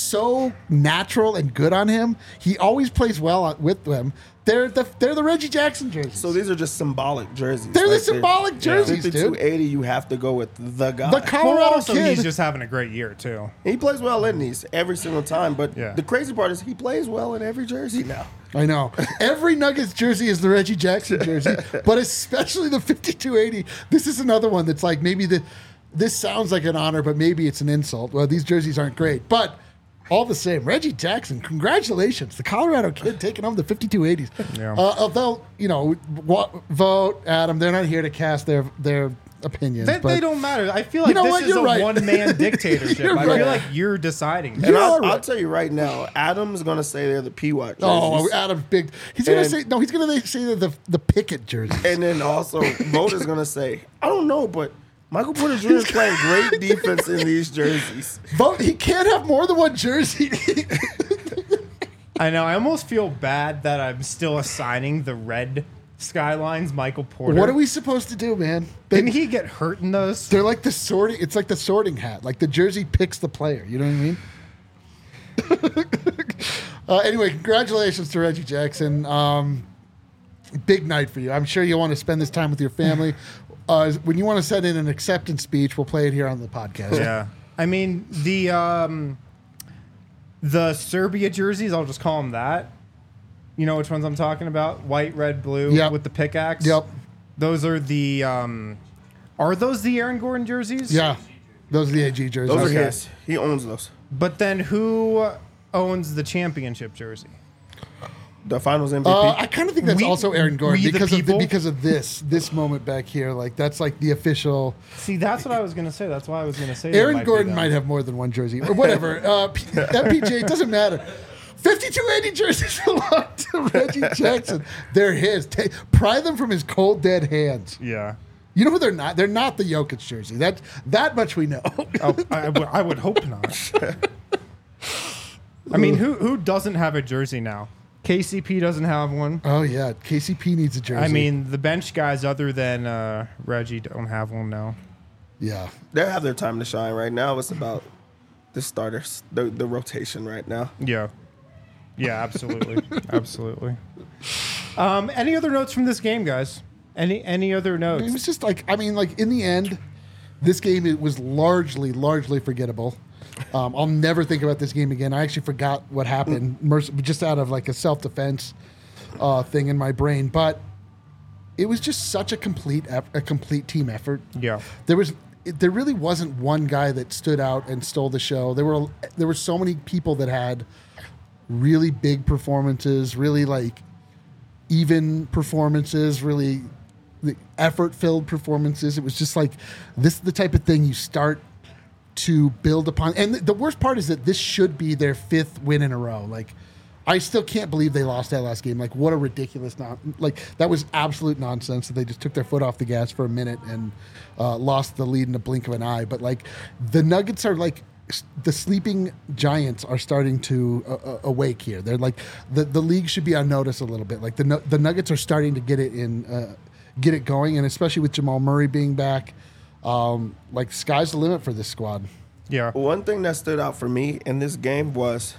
so natural and good on him. He always plays well with them. They're the they're the Reggie Jackson jerseys. So these are just symbolic jerseys. They're the symbolic jerseys, dude. fifty-two eighty, you have to go with the guy. The Well, Colorado also, kid. he's just having a great year, too. he plays well in these every single time, but Yeah. the crazy part is he plays well in every jersey now. I know. Every Nuggets jersey is the Reggie Jackson jersey, but especially the fifty-two eighty. This is another one that's like maybe the this sounds like an honor, but maybe it's an insult. Well, these jerseys aren't great, but all the same, Reggie Jackson, congratulations. The Colorado kid taking home the fifty-two eighties. Yeah. Uh, although, you know, wa- vote, Adam, they're not here to cast their, their opinions. They, but they don't matter. I feel like You know this what? is You're a right. one-man dictatorship. You're I right. feel like you're deciding. And You're I'll, all I'll right. tell you right now, Adam's going to say they're the P W A T jerseys. Oh, Adam's big. He's going to And- say, no, he's going to say they're the, the Pickett jerseys. And then also, Vote is going to say, I don't know, but Michael Porter Junior is playing great defense in these jerseys. Vote, he can't have more than one jersey. I know. I almost feel bad that I'm still assigning the red Skylines, Michael Porter. What are we supposed to do, man? They, Didn't he get hurt in those? they're like the sorting. It's like the sorting hat. Like the jersey picks the player. You know what I mean? uh, anyway, congratulations to Reggie Jackson. Um, big night for you. I'm sure you'll want to spend this time with your family. Uh, when you want to send in an acceptance speech, we'll play it here on the podcast. Yeah. I mean, the um, the Serbia jerseys, I'll just call them that. You know which ones I'm talking about? White, red, blue Yep. with the pickaxe. Yep. Those are the um, are those the Aaron Gordon jerseys? Yeah. Those are the A G jerseys. Those are Okay. his. He owns those. But then who owns the championship jersey? The Finals M V P. Uh, I kind of think that's We- also Aaron Gordon we the because of the, people? because of this this moment back here. Like that's like the official. See, that's what I was gonna say. That's why I was gonna say that Aaron might be Gordon them. might have more than one jersey or whatever. uh, P- M P J, it doesn't matter. fifty-two eighty jerseys belong to Reggie Jackson. They're his. Ta pry them from his cold dead hands. Yeah. You know who they're not? They're not the Jokic jersey. That that much we know. Oh, I, would- I would hope not. I mean, who who doesn't have a jersey now? K C P doesn't have one. Oh yeah, K C P needs a jersey. I mean, the bench guys other than uh, Reggie don't have one now. yeah. They have their time to shine right now. It's about the starters, the, the rotation right now. Yeah. Yeah, absolutely. absolutely. Um, any other notes from this game, guys? Any any other It notes? was just like I mean, like in the end, this game it was largely largely forgettable. Um, I'll never think about this game again. I actually forgot what happened, merc- just out of like a self defense uh, thing in my brain. But it was just such a complete eff- a complete team effort. Yeah. There was it, there really wasn't one guy that stood out and stole the show. There were there were so many people that had really big performances, really like even performances, really effort filled performances. It was just like this is the type of thing you start to build upon. And the worst part is that this should be their fifth win in a row. Like, I still can't believe they lost that last game. Like, what a ridiculous non like that was absolute nonsense that they just took their foot off the gas for a minute and uh, lost the lead in a blink of an eye. But like, the Nuggets are like s- the sleeping giants are starting to uh, uh, awake here. They're like the the league should be on notice a little bit. Like the Nu- the Nuggets are starting to get it in, uh, get it going, and especially with Jamal Murray being back. Um, like sky's the limit for this squad. Yeah. One thing that stood out for me in this game was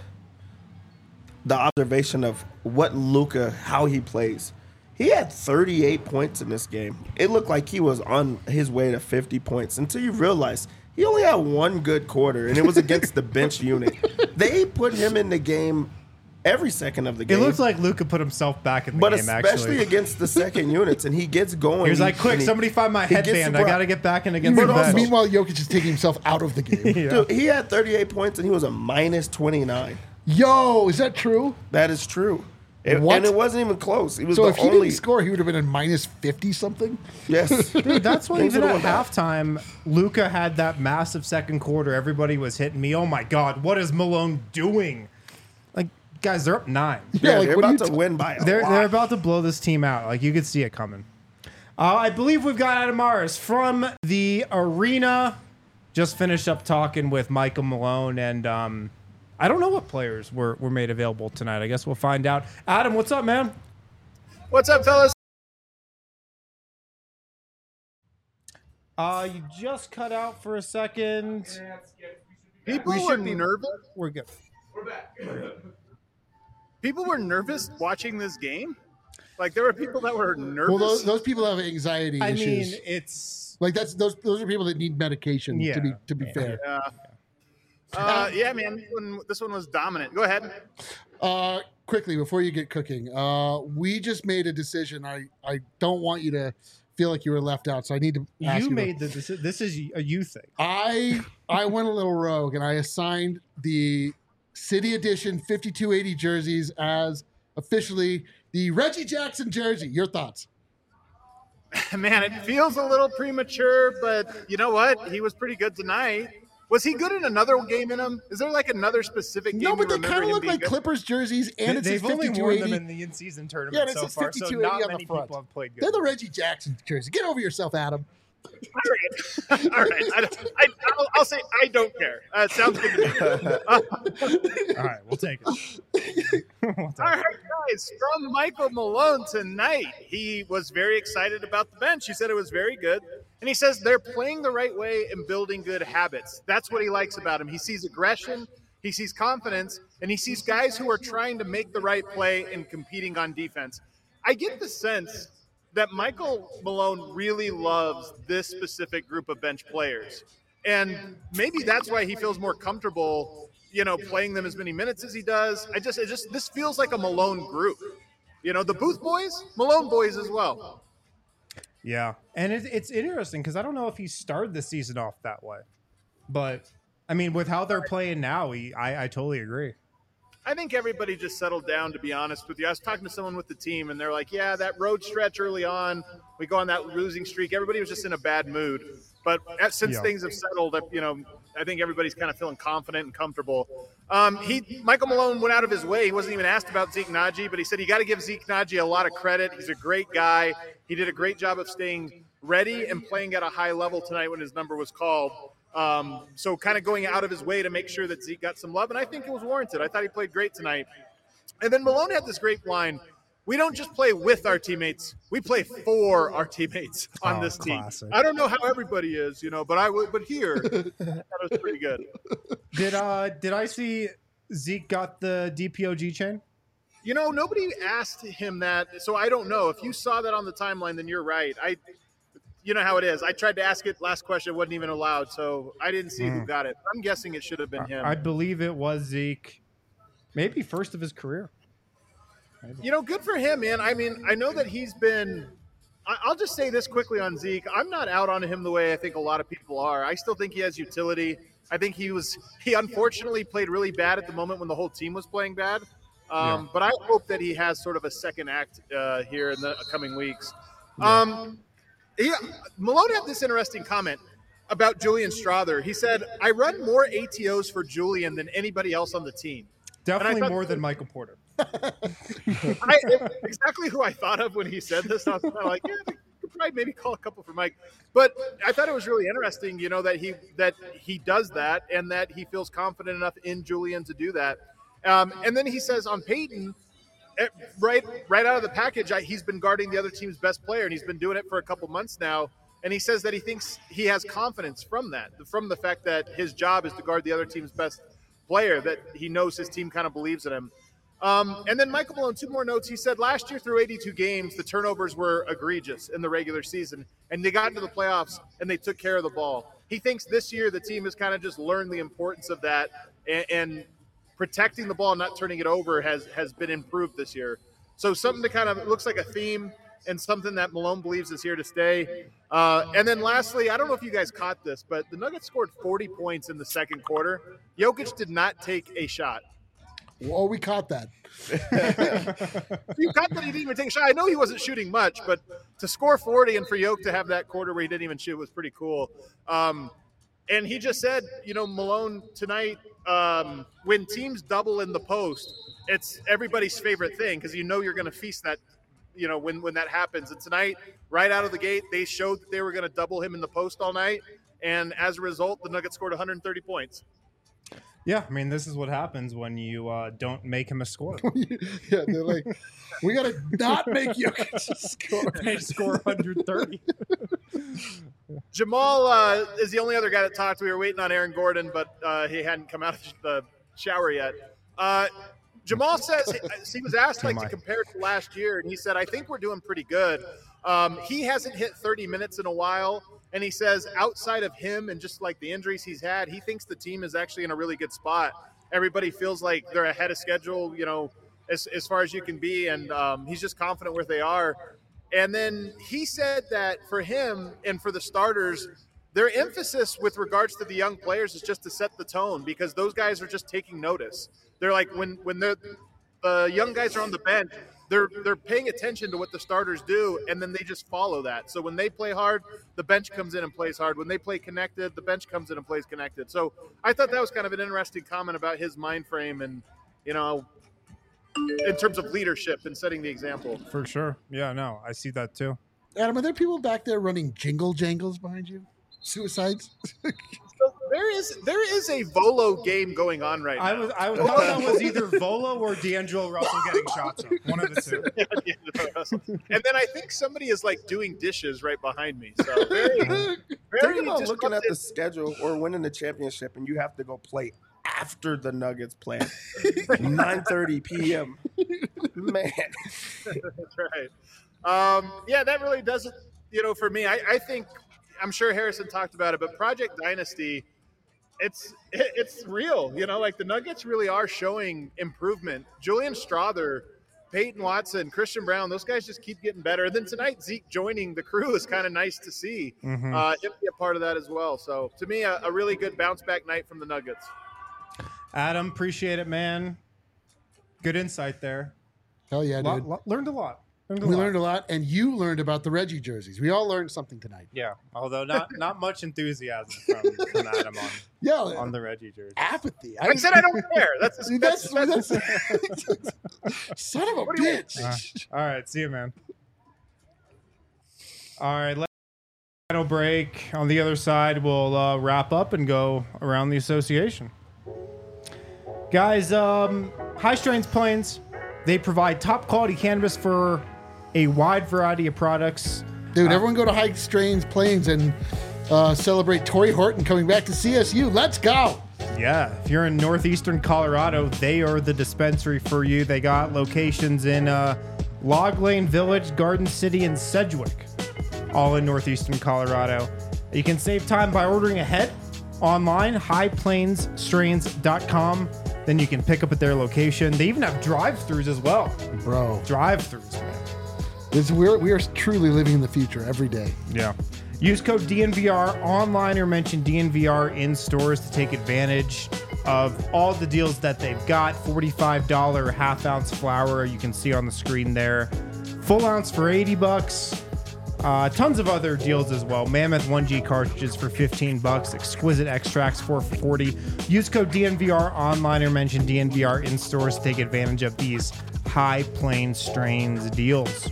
the observation of what Luka, how he plays. He had thirty-eight points in this game. It looked like he was on his way to fifty points until you realize he only had one good quarter, and it was against the bench unit. They put him in the game every second of the It game. looks like Luka put himself back in the but game, especially actually. against the second units, and he gets going. He was like, and quick, he- somebody find my he gets headband. the I bro- got to get back in against But the also- bench. Meanwhile, Jokic is taking himself out of the game. Yeah. Dude, he had thirty-eight points, and he was a minus twenty-nine. Yo, is that true? That is true. It- What? And it wasn't even close. He was So the if he only. didn't score, he would have been in minus fifty something. Yes. Dude, that's why Things even would've at went back. halftime, Luka had that massive second quarter. Everybody was hitting me. Oh my God, what is Malone doing? Like, guys, they're up nine. Yeah, like, they're what are about you to ta- win by a They're lot. they're about to blow this team out. Like, you could see it coming. Uh, I believe we've got Adam Morris from the arena. Just finished up talking with Michael Malone, and um, I don't know what players were, were made available tonight. I guess we'll find out. Adam, what's up, man? What's up, fellas? Uh, you just cut out for a second. People We were shouldn't- nervous. We're good. People were nervous watching this game. Like there were people that were nervous. Well, those, those people have anxiety I issues. mean, it's like that's those those are people that need medication. Yeah. To be to be fair. yeah. Uh, yeah, man. This one, this one was dominant. Go ahead. Uh, quickly before you get cooking, uh, we just made a decision. I I don't want you to feel like you were left out, so I need to. Ask you you made the deci- this is a you thing. I I went a little rogue and I assigned the City Edition fifty-two eighty jerseys as officially the Reggie Jackson jersey. Your thoughts? Man, it feels a little premature, but you know what? He was pretty good tonight. Was he good in another game in him? Is there like another specific game? No, but you they remember kind of him look being like good? Clippers jerseys, and it says They've only fifty-two worn them eighty. in the in-season tournament Yeah, and it so says far, so fifty-two eighty not on the many front. people have played good. They're the Reggie Jackson jersey. Get over yourself, Adam. All right, all right. I, don't- I, I'll, I'll say I don't care. Uh, sounds good to me. Uh, All right, we'll take it. We'll take all it. right, guys. From Michael Malone tonight, he was very excited about the bench. He said it was very good, and he says they're playing the right way and building good habits. That's what he likes about him. He sees aggression, he sees confidence, and he sees guys who are trying to make the right play and competing on defense. I get the sense that Michael Malone really loves this specific group of bench players. And maybe that's why he feels more comfortable, you know, playing them as many minutes as he does. I just, it just, this feels like a Malone group. You know, the Booth boys, Malone boys as well. Yeah, and it, it's interesting because I don't know if he started the season off that way, but I mean, with how they're playing now, he, I, I totally agree. I think everybody just settled down, to be honest with you. I was talking to someone with the team, and they're like, yeah, that road stretch early on, we go on that losing streak. Everybody was just in a bad mood. But since Yeah. things have settled, you know, I think everybody's kind of feeling confident and comfortable. Um, he Michael Malone went out of his way. He wasn't even asked about Zeke Naji, but he said you got to give Zeke Naji a lot of credit. He's a great guy. He did a great job of staying ready and playing at a high level tonight when his number was called. Um, so kind of going out of his way to make sure that Zeke got some love, and I think it was warranted. I thought he played great tonight. And then Malone had this great line: we don't just play with our teammates, we play for our teammates on Oh, this team. classic. I don't know how everybody is, you know, but I would, but here, that was pretty good. Did uh did I see Zeke got the D P O G chain? You know, nobody asked him that, so I don't know. If you saw that on the timeline, then you're right. I, you know how it is. I tried to ask it last question, it wasn't even allowed, so I didn't see who got it. I'm guessing it should have been him. I believe it was Zeke, maybe first of his career. You know, good for him, man. I mean, I know that he's been. I- I'll just say this quickly on Zeke. I'm not out on him the way I think a lot of people are. I still think he has utility. I think he was. He unfortunately played really bad at the moment when the whole team was playing bad. Um, Yeah. But I hope that he has sort of a second act uh, here in the coming weeks. Um, he, Malone had this interesting comment about Julian Strother. He said, "I run more A T Os for Julian than anybody else on the team." Definitely thought- more than Michael Porter. I, exactly who I thought of when he said this. I was kind of like, yeah, you could probably maybe call a couple for Mike. But I thought it was really interesting, you know, that he that he does that and that he feels confident enough in Julian to do that. Um, and then he says on Peyton, eh, right right out of the package, I, he's been guarding the other team's best player, and he's been doing it for a couple months now. And he says that he thinks he has confidence from that, from the fact that his job is to guard the other team's best player, that he knows his team kind of believes in him. Um, and then Michael Malone, two more notes. He said last year through eighty-two games, the turnovers were egregious in the regular season, and they got into the playoffs and they took care of the ball. He thinks this year the team has kind of just learned the importance of that, and, and protecting the ball, not turning it over, has has been improved this year. So something to kind of, it looks like a theme and something that Malone believes is here to stay. Uh, and then lastly, I don't know if you guys caught this, but the Nuggets scored forty points in the second quarter. Jokic did not take a shot. Oh, we caught that. You caught that he didn't even take a shot. I know he wasn't shooting much, but to score forty and for Yoke to have that quarter where he didn't even shoot was pretty cool. Um, and he just said, you know, Malone tonight, um, when teams double in the post, it's everybody's favorite thing because you know you're going to feast that, you know, when, when that happens. And tonight, right out of the gate, they showed that they were going to double him in the post all night. And as a result, the Nuggets scored one hundred thirty points. Yeah, I mean, this is what happens when you uh, don't make him a scorer. Yeah, they're like, we got to not make Jokic score. They score one hundred thirty. Jamal uh, is the only other guy that talked. We were waiting on Aaron Gordon, but uh, he hadn't come out of the shower yet. Uh, Jamal says he was asked like to compare to last year, and he said, "I think we're doing pretty good." Um, he hasn't hit thirty minutes in a while, and he says outside of him and just like the injuries he's had, he thinks the team is actually in a really good spot. Everybody feels like they're ahead of schedule, you know, as as far as you can be, and um, he's just confident where they are. And then he said that for him and for the starters, their emphasis with regards to the young players is just to set the tone because those guys are just taking notice. They're like when when the the young guys are on the bench, they're they're paying attention to what the starters do, and then they just follow that. So when they play hard, the bench comes in and plays hard. When they play connected, the bench comes in and plays connected. So I thought that was kind of an interesting comment about his mind frame and, you know, in terms of leadership and setting the example. For sure. Yeah, no, I see that too. Adam, are there people back there running jingle jangles behind you? Suicides? So there is there is a Volo game going on right now. I was I was thought that was either Volo or D'Angelo Russell getting shots up. One of the two. And then I think somebody is like doing dishes right behind me. So very, very Think about disruptive. looking at the schedule or winning the championship, and you have to go play after the Nuggets play, nine thirty p.m. Man, That's right. Um, yeah, that really doesn't. You know, for me, I, I think I'm sure Harrison talked about it, but Project Dynasty, it's it, it's real. You know, like the Nuggets really are showing improvement. Julian Strother, Peyton Watson, Christian Brown, those guys just keep getting better. And then tonight, Zeke joining the crew is kind of nice to see. Mhm. Uh, him be a part of that as well. So to me, a, a really good bounce back night from the Nuggets. Adam, appreciate it, man. Good insight there. Hell yeah, Lot- dude. lot- learned a lot. Learned a We lot. learned a lot, and you learned about the Reggie jerseys. We all learned something tonight. Yeah, although not not much enthusiasm from, from Adam on, Yeah, on the Reggie jersey. apathy. I said I don't care. That's See, that's, that's, that's, that's son of a What do you- bitch. All right, see you, man. All right, let's final break. On the other side, we'll uh, wrap up and go around the association. Guys, um, High Strains Plains, they provide top quality cannabis for a wide variety of products. Dude, everyone go to High Strains Plains and uh, celebrate Torrey Horton coming back to C S U. Let's go. Yeah, if you're in northeastern Colorado, they are the dispensary for you. They got locations in uh, Log Lane Village, Garden City, and Sedgwick, all in northeastern Colorado. You can save time by ordering ahead online, high plains strains dot com. Then you can pick up at their location. They even have drive-thrus as well. Bro, Drive-thrus, man. this, we're, we are truly living in the future every day. Yeah. Use code D N V R online or mention D N V R in stores to take advantage of all the deals that they've got. forty-five dollars half ounce flower you can see on the screen there. Full ounce for eighty bucks. Uh, tons of other deals as well. Mammoth one G cartridges for fifteen bucks. Exquisite extracts for forty. Use code D N V R online or mention D N V R in stores to take advantage of these High Plains strains deals.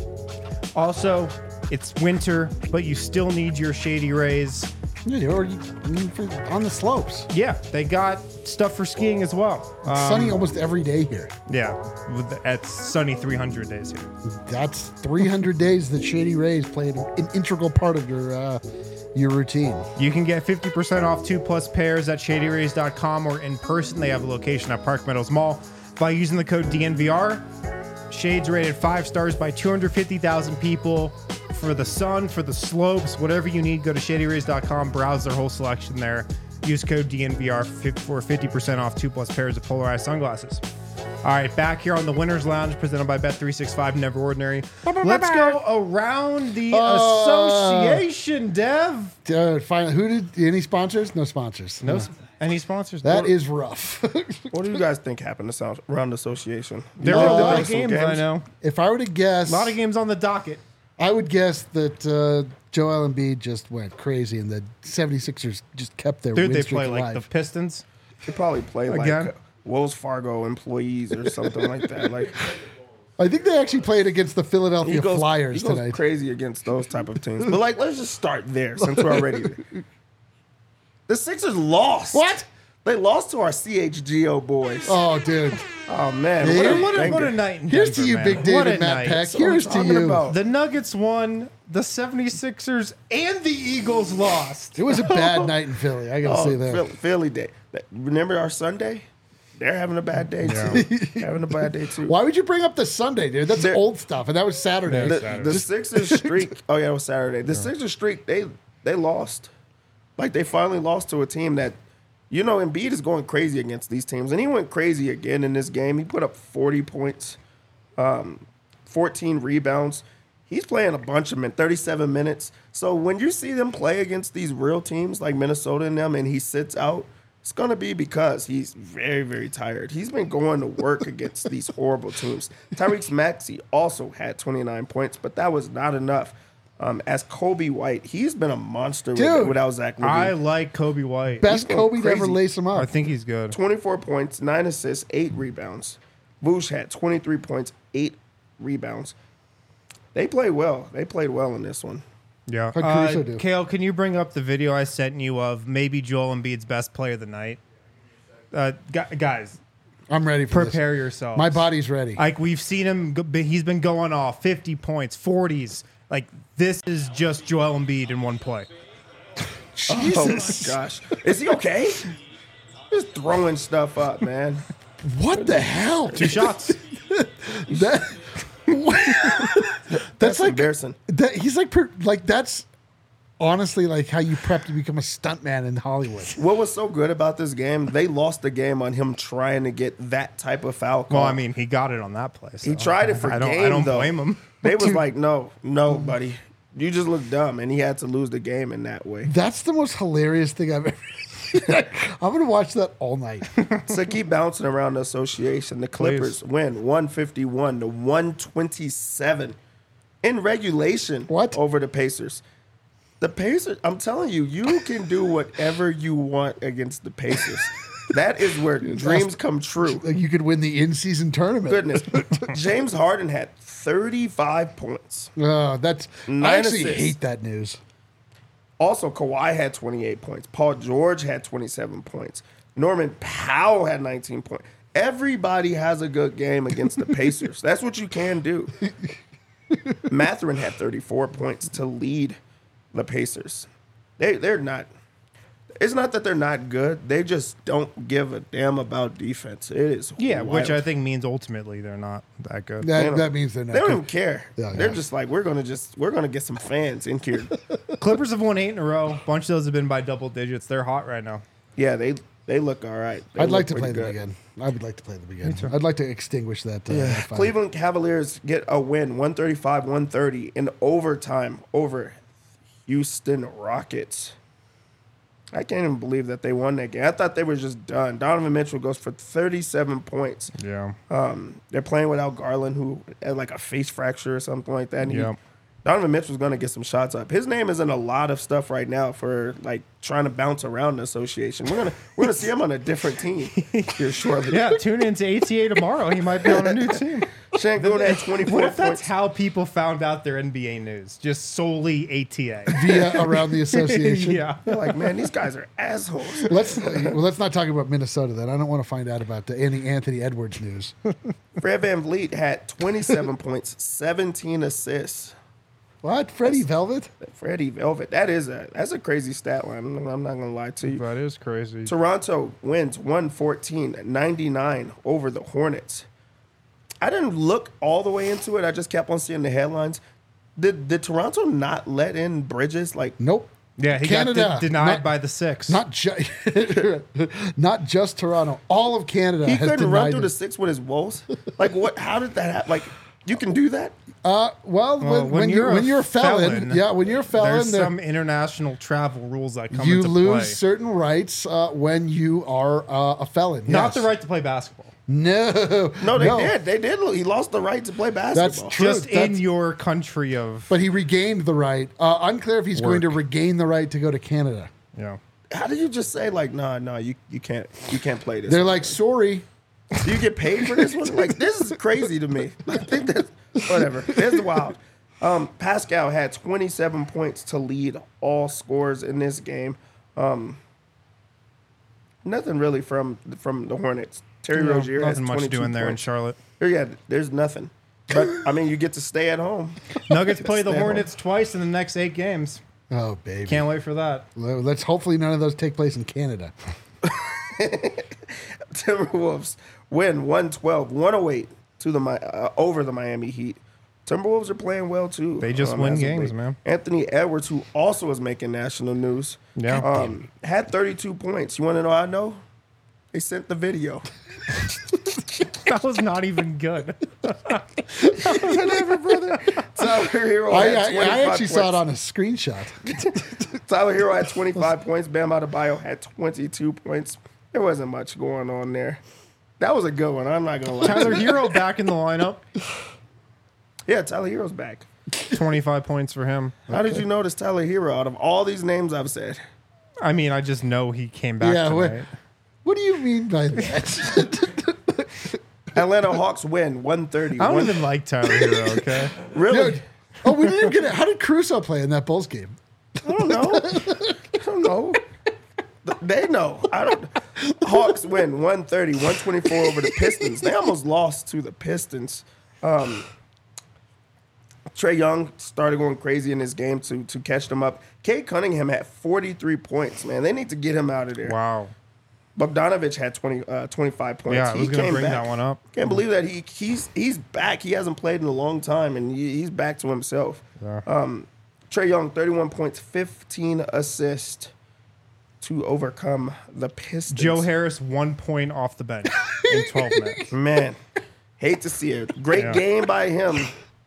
Also, it's winter, but you still need your Shady Rays. Yeah, or you, I mean, for, on the slopes. Yeah, they got stuff for skiing as well. Um, Sunny almost every day here. Yeah, with, at sunny three hundred days here. That's three hundred days that Shady Rays played an integral part of your uh, your routine. You can get fifty percent off two plus pairs at shady rays dot com or in person. They have a location at Park Meadows Mall. By using the code D N V R, Shades rated five stars by two hundred fifty thousand people. For the sun, for the slopes, whatever you need, go to shady rays dot com, browse their whole selection there. Use code D N V R for fifty percent off two plus pairs of polarized sunglasses. All right, back here on the Winners Lounge, presented by Bet three sixty-five, Never Ordinary. Let's go around the Uh, association, Dev. Uh, finally, who did any sponsors? No sponsors. No, any sponsors? That What- is rough. what do you guys think happened to South around the association? There Uh, were a lot there of some games, I games? know. If I were to guess, A lot of games on the docket. I would guess that uh, Joel Embiid just went crazy and the 76ers just kept their Dude, win they streak play like alive. the Pistons. They probably play Again? like Wells Fargo employees or something like that. Like I think they actually played against the Philadelphia he goes, Flyers he goes tonight. crazy against those type of teams. But like, let's just start there since we're already. The Sixers lost. What? They lost to our C H G O boys. Oh, dude. Oh man, Yeah. what a, What a, what a banger. night in Here's to Denver, you, man. Big David What a Matt night. Peck. That's what I'm Here's to talking you. about. The Nuggets won, the 76ers and the Eagles lost. It was a bad night in Philly. I gotta Oh, say that. Phil- Philly day. That- Remember our Sunday? They're having a bad day too. having a bad day too. Why would you bring up the Sunday, dude? That's They're- old stuff, and that was Saturday. The, the Sixers streak. Oh yeah, it was Saturday. The Sixers streak. They they lost. Like they finally lost to a team that, you know, Embiid is going crazy against these teams, and he went crazy again in this game. He put up forty points, um, fourteen rebounds. He's playing a bunch of them in thirty-seven minutes. So when you see them play against these real teams like Minnesota and them, and he sits out, it's going to be because he's very, very tired. He's been going to work against these horrible teams. Tyrese Maxey also had twenty-nine points, but that was not enough. Um, as Kobe White, he's been a monster with, Dude, without Zach I LaVine. like Kobe White. Best going Kobe to ever crazy. lace him I up. think he's good. twenty-four points, nine assists, eight rebounds. Vooch had twenty-three points, eight rebounds. they played well. They played well in this one. Yeah. How'd Uh, Caruso do? Kale, can you bring up the video I sent you of maybe Joel Embiid's best play of the night? Uh, gu- guys, I'm ready for prepare this. yourselves. My body's ready. Like, we've seen him, go- he's been going off fifty points, forties. Like, this is just Joel Embiid in one play. Jesus. Oh my gosh. Is he okay? Just throwing stuff up, man. What the hell? Two shots. That, that's, That's like embarrassing. that. He's like per, like that's honestly like how you prep to become a stuntman in Hollywood. What was so good about this game? They lost the game on him trying to get that type of foul call. Well, I mean, he got it on that play. So he tried it for I don't, game, I don't though. blame him. They was like, no, no, buddy. You just look dumb, and he had to lose the game in that way. That's the most hilarious thing I've ever. I'm gonna watch that all night. So keep bouncing around the association. The Clippers win one fifty-one to one twenty-seven in regulation What? over the Pacers. The Pacers, I'm telling you, you can do whatever you want against the Pacers. That is where dreams come true. Like you could win the in-season tournament. Goodness. James Harden had thirty-five points. Oh, that's. I Nine actually assists. hate that news. Also, Kawhi had twenty-eight points. Paul George had twenty-seven points. Norman Powell had nineteen points. Everybody has a good game against the Pacers. That's what you can do. Mathurin had thirty-four points to lead the Pacers. They, they're not... It's not that they're not good. They just don't give a damn about defense. It is Yeah, which wild. I think means ultimately they're not that good. They That, don't- that means they're not. They don't good. even care. Yeah, They're yeah. just like, we're gonna just we're gonna get some fans in here. Clippers have won eight in a row. A bunch of those have been by double digits. They're hot right now. Yeah, they they look all right. They I'd like look to play pretty them good. again. I would like to play them again. I'd like to extinguish that. Uh, that fire. Cleveland Cavaliers get a win, one thirty-five one thirty in overtime over Houston Rockets. I can't even believe that they won that game. I thought they were just done. Donovan Mitchell goes for thirty-seven points. Yeah. Um, they're playing without Garland, who had like a face fracture or something like that. And he- Yeah. Donovan Mitchell's going to get some shots up. His name is in a lot of stuff right now for like trying to bounce around the association. We're gonna we're gonna see him on a different team here shortly. Yeah, tune in to A T A tomorrow. He might be on a new team. Shangoon had twenty-four What if that's points. how people found out their N B A news? Just solely A T A. via around the association. Yeah. They're like, man, these guys are assholes. Let's well, let's not talk about Minnesota then. I don't want to find out about the any Anthony Edwards news. Fred Van Vliet had twenty-seven points, seventeen assists. What? Freddie Velvet? Freddie Velvet. That is a that's a crazy stat line. I'm I'm not gonna lie to you. That is crazy. Toronto wins one fourteen ninety-nine over the Hornets. I didn't look all the way into it. I just kept on seeing the headlines. Did did Toronto not let in Bridges? Like, Nope. Yeah, he Canada, got de- denied not- by the six. Not just not just Toronto. All of Canada he has couldn't run denied through it. the six with his woes. Like, what? How did that happen? Like, you can do that? Uh, well, Well, when, when, you're, when you're a felon, felon, yeah, when you're a felon, There's there- some international travel rules that come you into lose play. certain rights uh, when you are uh, a felon. Not yes. the right to play basketball. No, No, they did. They did. He lost the right to play basketball. true. Just That's- in your country of. But he regained the right. Uh, unclear if he's going to Work. regain the right to go to Canada. Yeah. How did you just say like, nah, nah, you you can't you can't play this? They're like, sorry. Do you get paid for this one? Like, this is crazy to me. I think that's whatever. It's wild. Um, Pascal had twenty-seven points to lead all scores in this game. Um, nothing really from from the Hornets. Terry No, Rozier has nothing much twenty-two doing there in points. Charlotte. Yeah, there's nothing. But I mean, you get to stay at home. Nuggets play the Stay home. Hornets twice in the next eight games. Oh, baby. Can't wait for that. Well, Let's hopefully none of those take place in Canada. Timberwolves win one twelve, one oh eight to the Mi- uh, over the Miami Heat. Timberwolves are playing well too. They just um, win as of games, late. man. Anthony Edwards, who also is making national news, Yeah. um, had thirty-two points. You want to know how I know? They sent the video. That was not even good. Whatever, brother. Tyler Hero I, had I, I twenty-five actually saw it points. on a screenshot. Tyler Hero had twenty-five points. Bam Adebayo had twenty-two points. There wasn't much going on there. That was a good one. I'm not gonna lie. Tyler Hero back in the lineup. Yeah, Tyler Hero's back. twenty-five points for him. How did you notice Tyler Hero out of all these names I've said? I mean, I just know he came back Yeah, what- tonight. What do you mean by that? Atlanta Hawks win one thirty. I don't One- even like Tyler Hero, okay? Really? Dude, Oh, we didn't even get it. How did Caruso play in that Bulls game? I don't know. I don't know. They know. I don't. Hawks win one thirty, one twenty-four over the Pistons. They almost lost to the Pistons. Um, Trae Young started going crazy in this game to to catch them up. Cade Cunningham had forty-three points, man. They need to get him out of there. Wow. Bogdanovich had twenty, uh, twenty-five points. Yeah, I was he going to came bring back. that one up. Can't believe that he he's he's back. He hasn't played in a long time, and he, he's back to himself. Yeah. Um, Trae Young, thirty-one points, fifteen assists to overcome the Pistons. Joe Harris, one point off the bench in twelve minutes. Man, hate to see it. Great Yeah. game by him.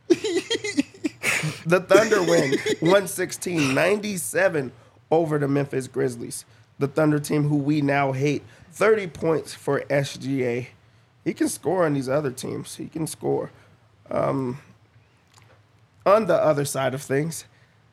The Thunder win one sixteen, ninety-seven over the Memphis Grizzlies. The Thunder team who we now hate. thirty points for S G A. He can score on these other teams. He can score. Um, on the other side of things,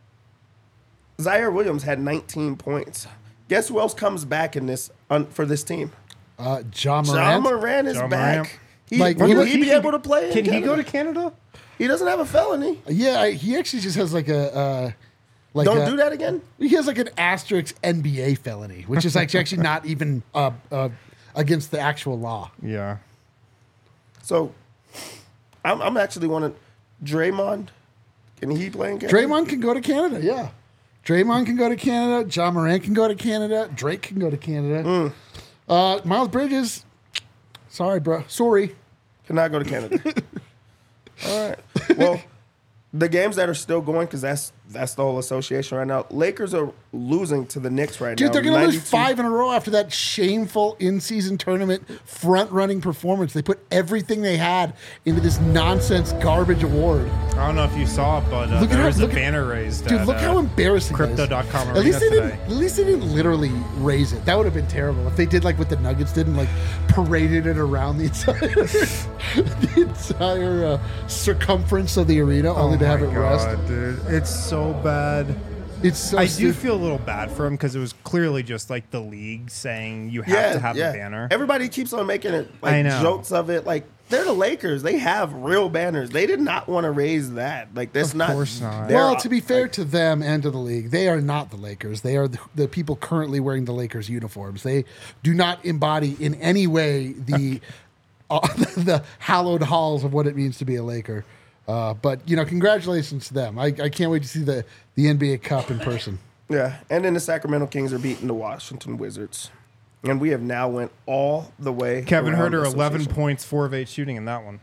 Zaire Williams had nineteen points. Guess who else comes back in this on, for this team? Uh, John John Morant. Moran is Ja back. Morant. He, Like, will he- he, be able to play? in Can he Canada? go to Canada? He doesn't have a felony. Yeah, I, he actually just has like a uh, like Don't a, do that again. He has like an asterisk N B A felony, which is actually actually not even uh, uh, against the actual law. Yeah. So, I'm, I'm actually wanting Draymond. Can he play in Canada? Draymond can go to Canada. Yeah, Draymond can go to Canada. John Morant can go to Canada. Drake can go to Canada. Uh, Miles Bridges. Sorry, bro. Sorry. Cannot go to Canada. All right. Well, the games that are still going, because that's that's the whole association right now. Lakers are losing to the Knicks right Dude, now. they're going to lose ninety-two five in a row after that shameful in-season tournament front-running performance. They put everything they had into this nonsense garbage award. I don't know if you saw it, but uh, Look at there how- was a look at- banner raised. Dude, at, look uh, how embarrassing that is. Crypto dot com At least they arena didn't. today. At least they didn't literally raise it. That would have been terrible if they did like what the Nuggets did and like paraded it around the entire the entire uh, circumference of the arena, only Oh to have my it God, rest. dude. It's so bad. It's so. I do stupid. feel a little bad for him because it was clearly just like the league saying you have Yeah, to have yeah. the banner. Everybody keeps on making it like I know. jokes of it. Like they're the Lakers. They have real banners. They did not want to raise that. Like that's Of not. course not. they're- Well, to be fair to them and to the league, they are not the Lakers. They are the, the people currently wearing the Lakers uniforms. They do not embody in any way the uh, the hallowed halls of what it means to be a Laker. Uh, but you know, congratulations to them. I, I can't wait to see the the N B A Cup in person. Yeah, and then the Sacramento Kings are beating the Washington Wizards, and we have now went all the way. Kevin around Herter, the eleven association. points, four of eight shooting in that one.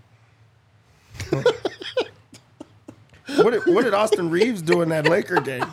What did, what did Austin Reeves do in that Laker game?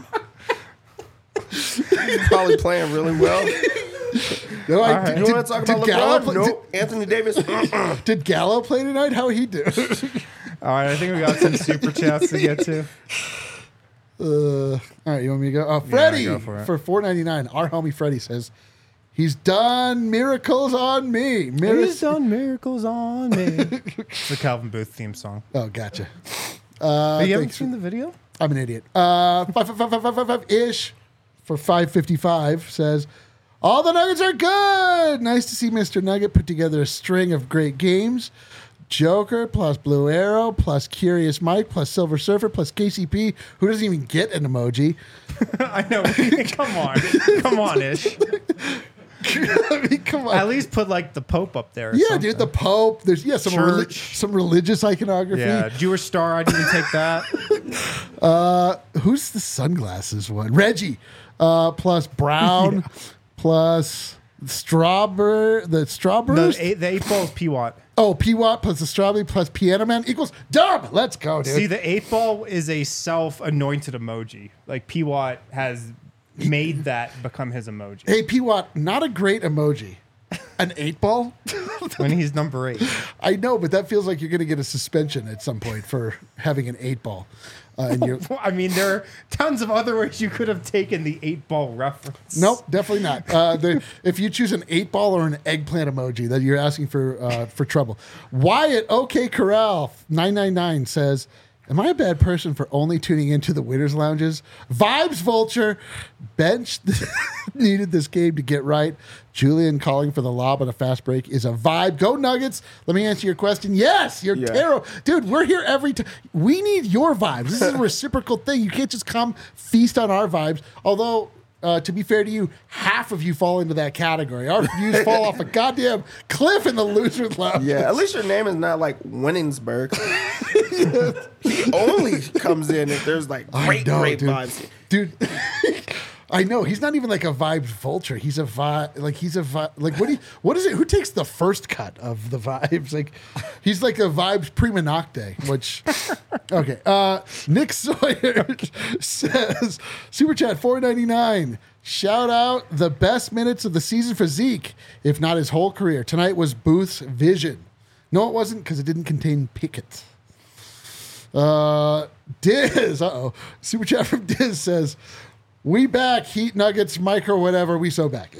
He's probably playing really well. No, I- right. You did, want to talk did about Gallo LeBron? play, Nope. Anthony Davis. did, did Gallo play tonight? How he do? All right, I think we got some super chats to get to. Uh, all right, you want me to go? Uh, Freddie go for it. for four ninety nine. Our homie Freddie says he's done miracles on me. Miracles. He's done miracles on me. It's the Calvin Booth theme song. Oh, gotcha. Uh, you haven't thanks. seen the video? I'm an idiot. Uh, five, five, five, five, five, five, five ish for five fifty-five says, all the Nuggets are good. Nice to see Mister Nugget put together a string of great games. Joker plus Blue Arrow plus Curious Mike plus Silver Surfer plus K C P, who doesn't even get an emoji. I know. Come on. Come on, Ish. I mean, come on. At least put like the Pope up there. or yeah, something. dude, the Pope. There's yeah some reli- Church. some religious iconography. Yeah, Jewish Star. I didn't take that. Who's the sunglasses one? Reggie, uh, plus Brown, plus Strawberry. The Strawberries. The eight, the eight ball is P Watt. Oh, P Watt plus the Strawberry plus Piano Man equals Dub. Let's go, dude. See, the eight ball is a self-anointed emoji. Like P Watt has made that become his emoji Hey, P Watt, not a great emoji. An eight ball? when he's number eight. I know, but that feels like you're going to get a suspension at some point for having an eight ball. Uh, in your I mean, there are tons of other ways you could have taken the eight ball reference. Nope, definitely not. Uh, the, if you choose an eight ball or an eggplant emoji, then you're asking for uh, for trouble. Wyatt OK Corral nine nine nine says, Am I a bad person for only tuning into the winners' lounges? Vibes Vulture. Bench needed this game to get right. Julian calling for the lob on a fast break is a vibe. Go Nuggets. Let me answer your question. Yes, you're Yeah. terrible. Dude, we're here every time. We need your vibes. This is a reciprocal thing. You can't just come feast on our vibes. Although, uh, to be fair to you, half of you fall into that category. Our views fall off a goddamn cliff in the losers' lounge. Yeah, at least your name is not like Winningsburg. He only comes in if there's like I great, know, great dude. vibes. Dude, I know he's not even like a vibes vulture. He's a vibe. Like he's a vibe. Like what do you, what is it? Who takes the first cut of the vibes? Like he's like a vibes prima nocte. Which okay. Uh, Nick Sawyer says super chat four ninety-nine. Shout out the best minutes of the season for Zeke, if not his whole career. Tonight was Booth's vision. No, it wasn't because it didn't contain Pickett. Uh, Diz, uh-oh. Super chat from Diz says, we back, Heat Nuggets, micro, whatever, we so back.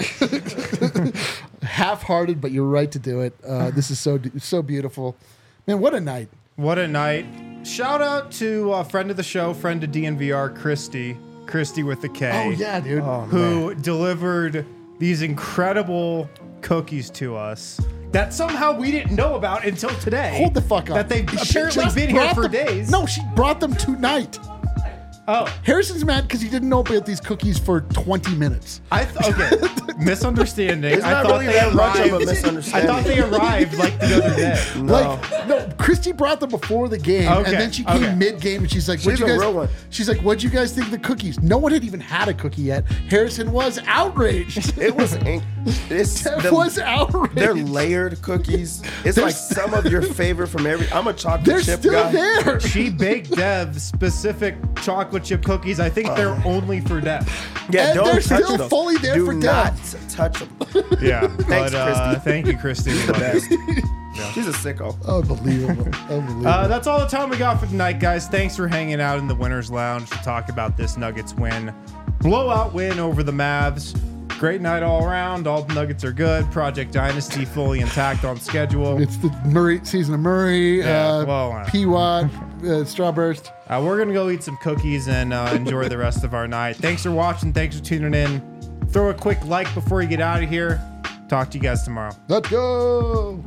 Half-hearted, but you're right to do it. Uh, this is so so beautiful. Man, what a night. What a night. Shout out to a friend of the show, friend of D N V R, Christy. Christy with the K. Oh, yeah, dude. Who delivered these incredible cookies to us that somehow we didn't know about until today. Hold the fuck up. That they've She apparently just been here brought for them- days. No, she brought them tonight. Oh, Harrison's mad because he didn't know about these cookies for twenty minutes. I th- okay. Misunderstanding. It's I not thought really they that much of a arrived- misunderstanding. I thought they arrived like the other day. No. Like, no, Christy brought them before the game, Okay, and then she came okay. mid-game, and she's like, "What She's you a guys?" real one. She's like, "What'd you guys think of the cookies?" No one had even had a cookie yet. Harrison was outraged. It was ink. It's That the- was outraged. They're layered cookies. It's They're like s- some of your favorite from every. I'm a chocolate They're chip still guy. there. She baked Dev specific chocolate chip cookies. I think they're only for Dev. Yeah, And don't they're touch still them. fully there Do for not Dev. touch them. Yeah. Thanks, but, uh, Christy. thank you, Christy. We The love you. best. She's a sicko. Unbelievable. Unbelievable. Uh, that's all the time we got for tonight, guys. Thanks for hanging out in the Winners Lounge to talk about this Nuggets win. Blowout win over the Mavs. Great night all around. All the Nuggets are good. Project Dynasty fully intact on schedule. it's the Murray season of Murray, Yeah, uh, well, uh, P-Watt, uh, Strawburst. Uh, we're going to go eat some cookies and uh, enjoy the rest of our night. Thanks for watching. Thanks for tuning in. Throw a quick like before you get out of here. Talk to you guys tomorrow. Let's go.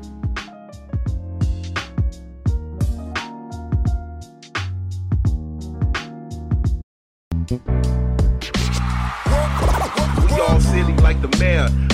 We all silly like the mayor.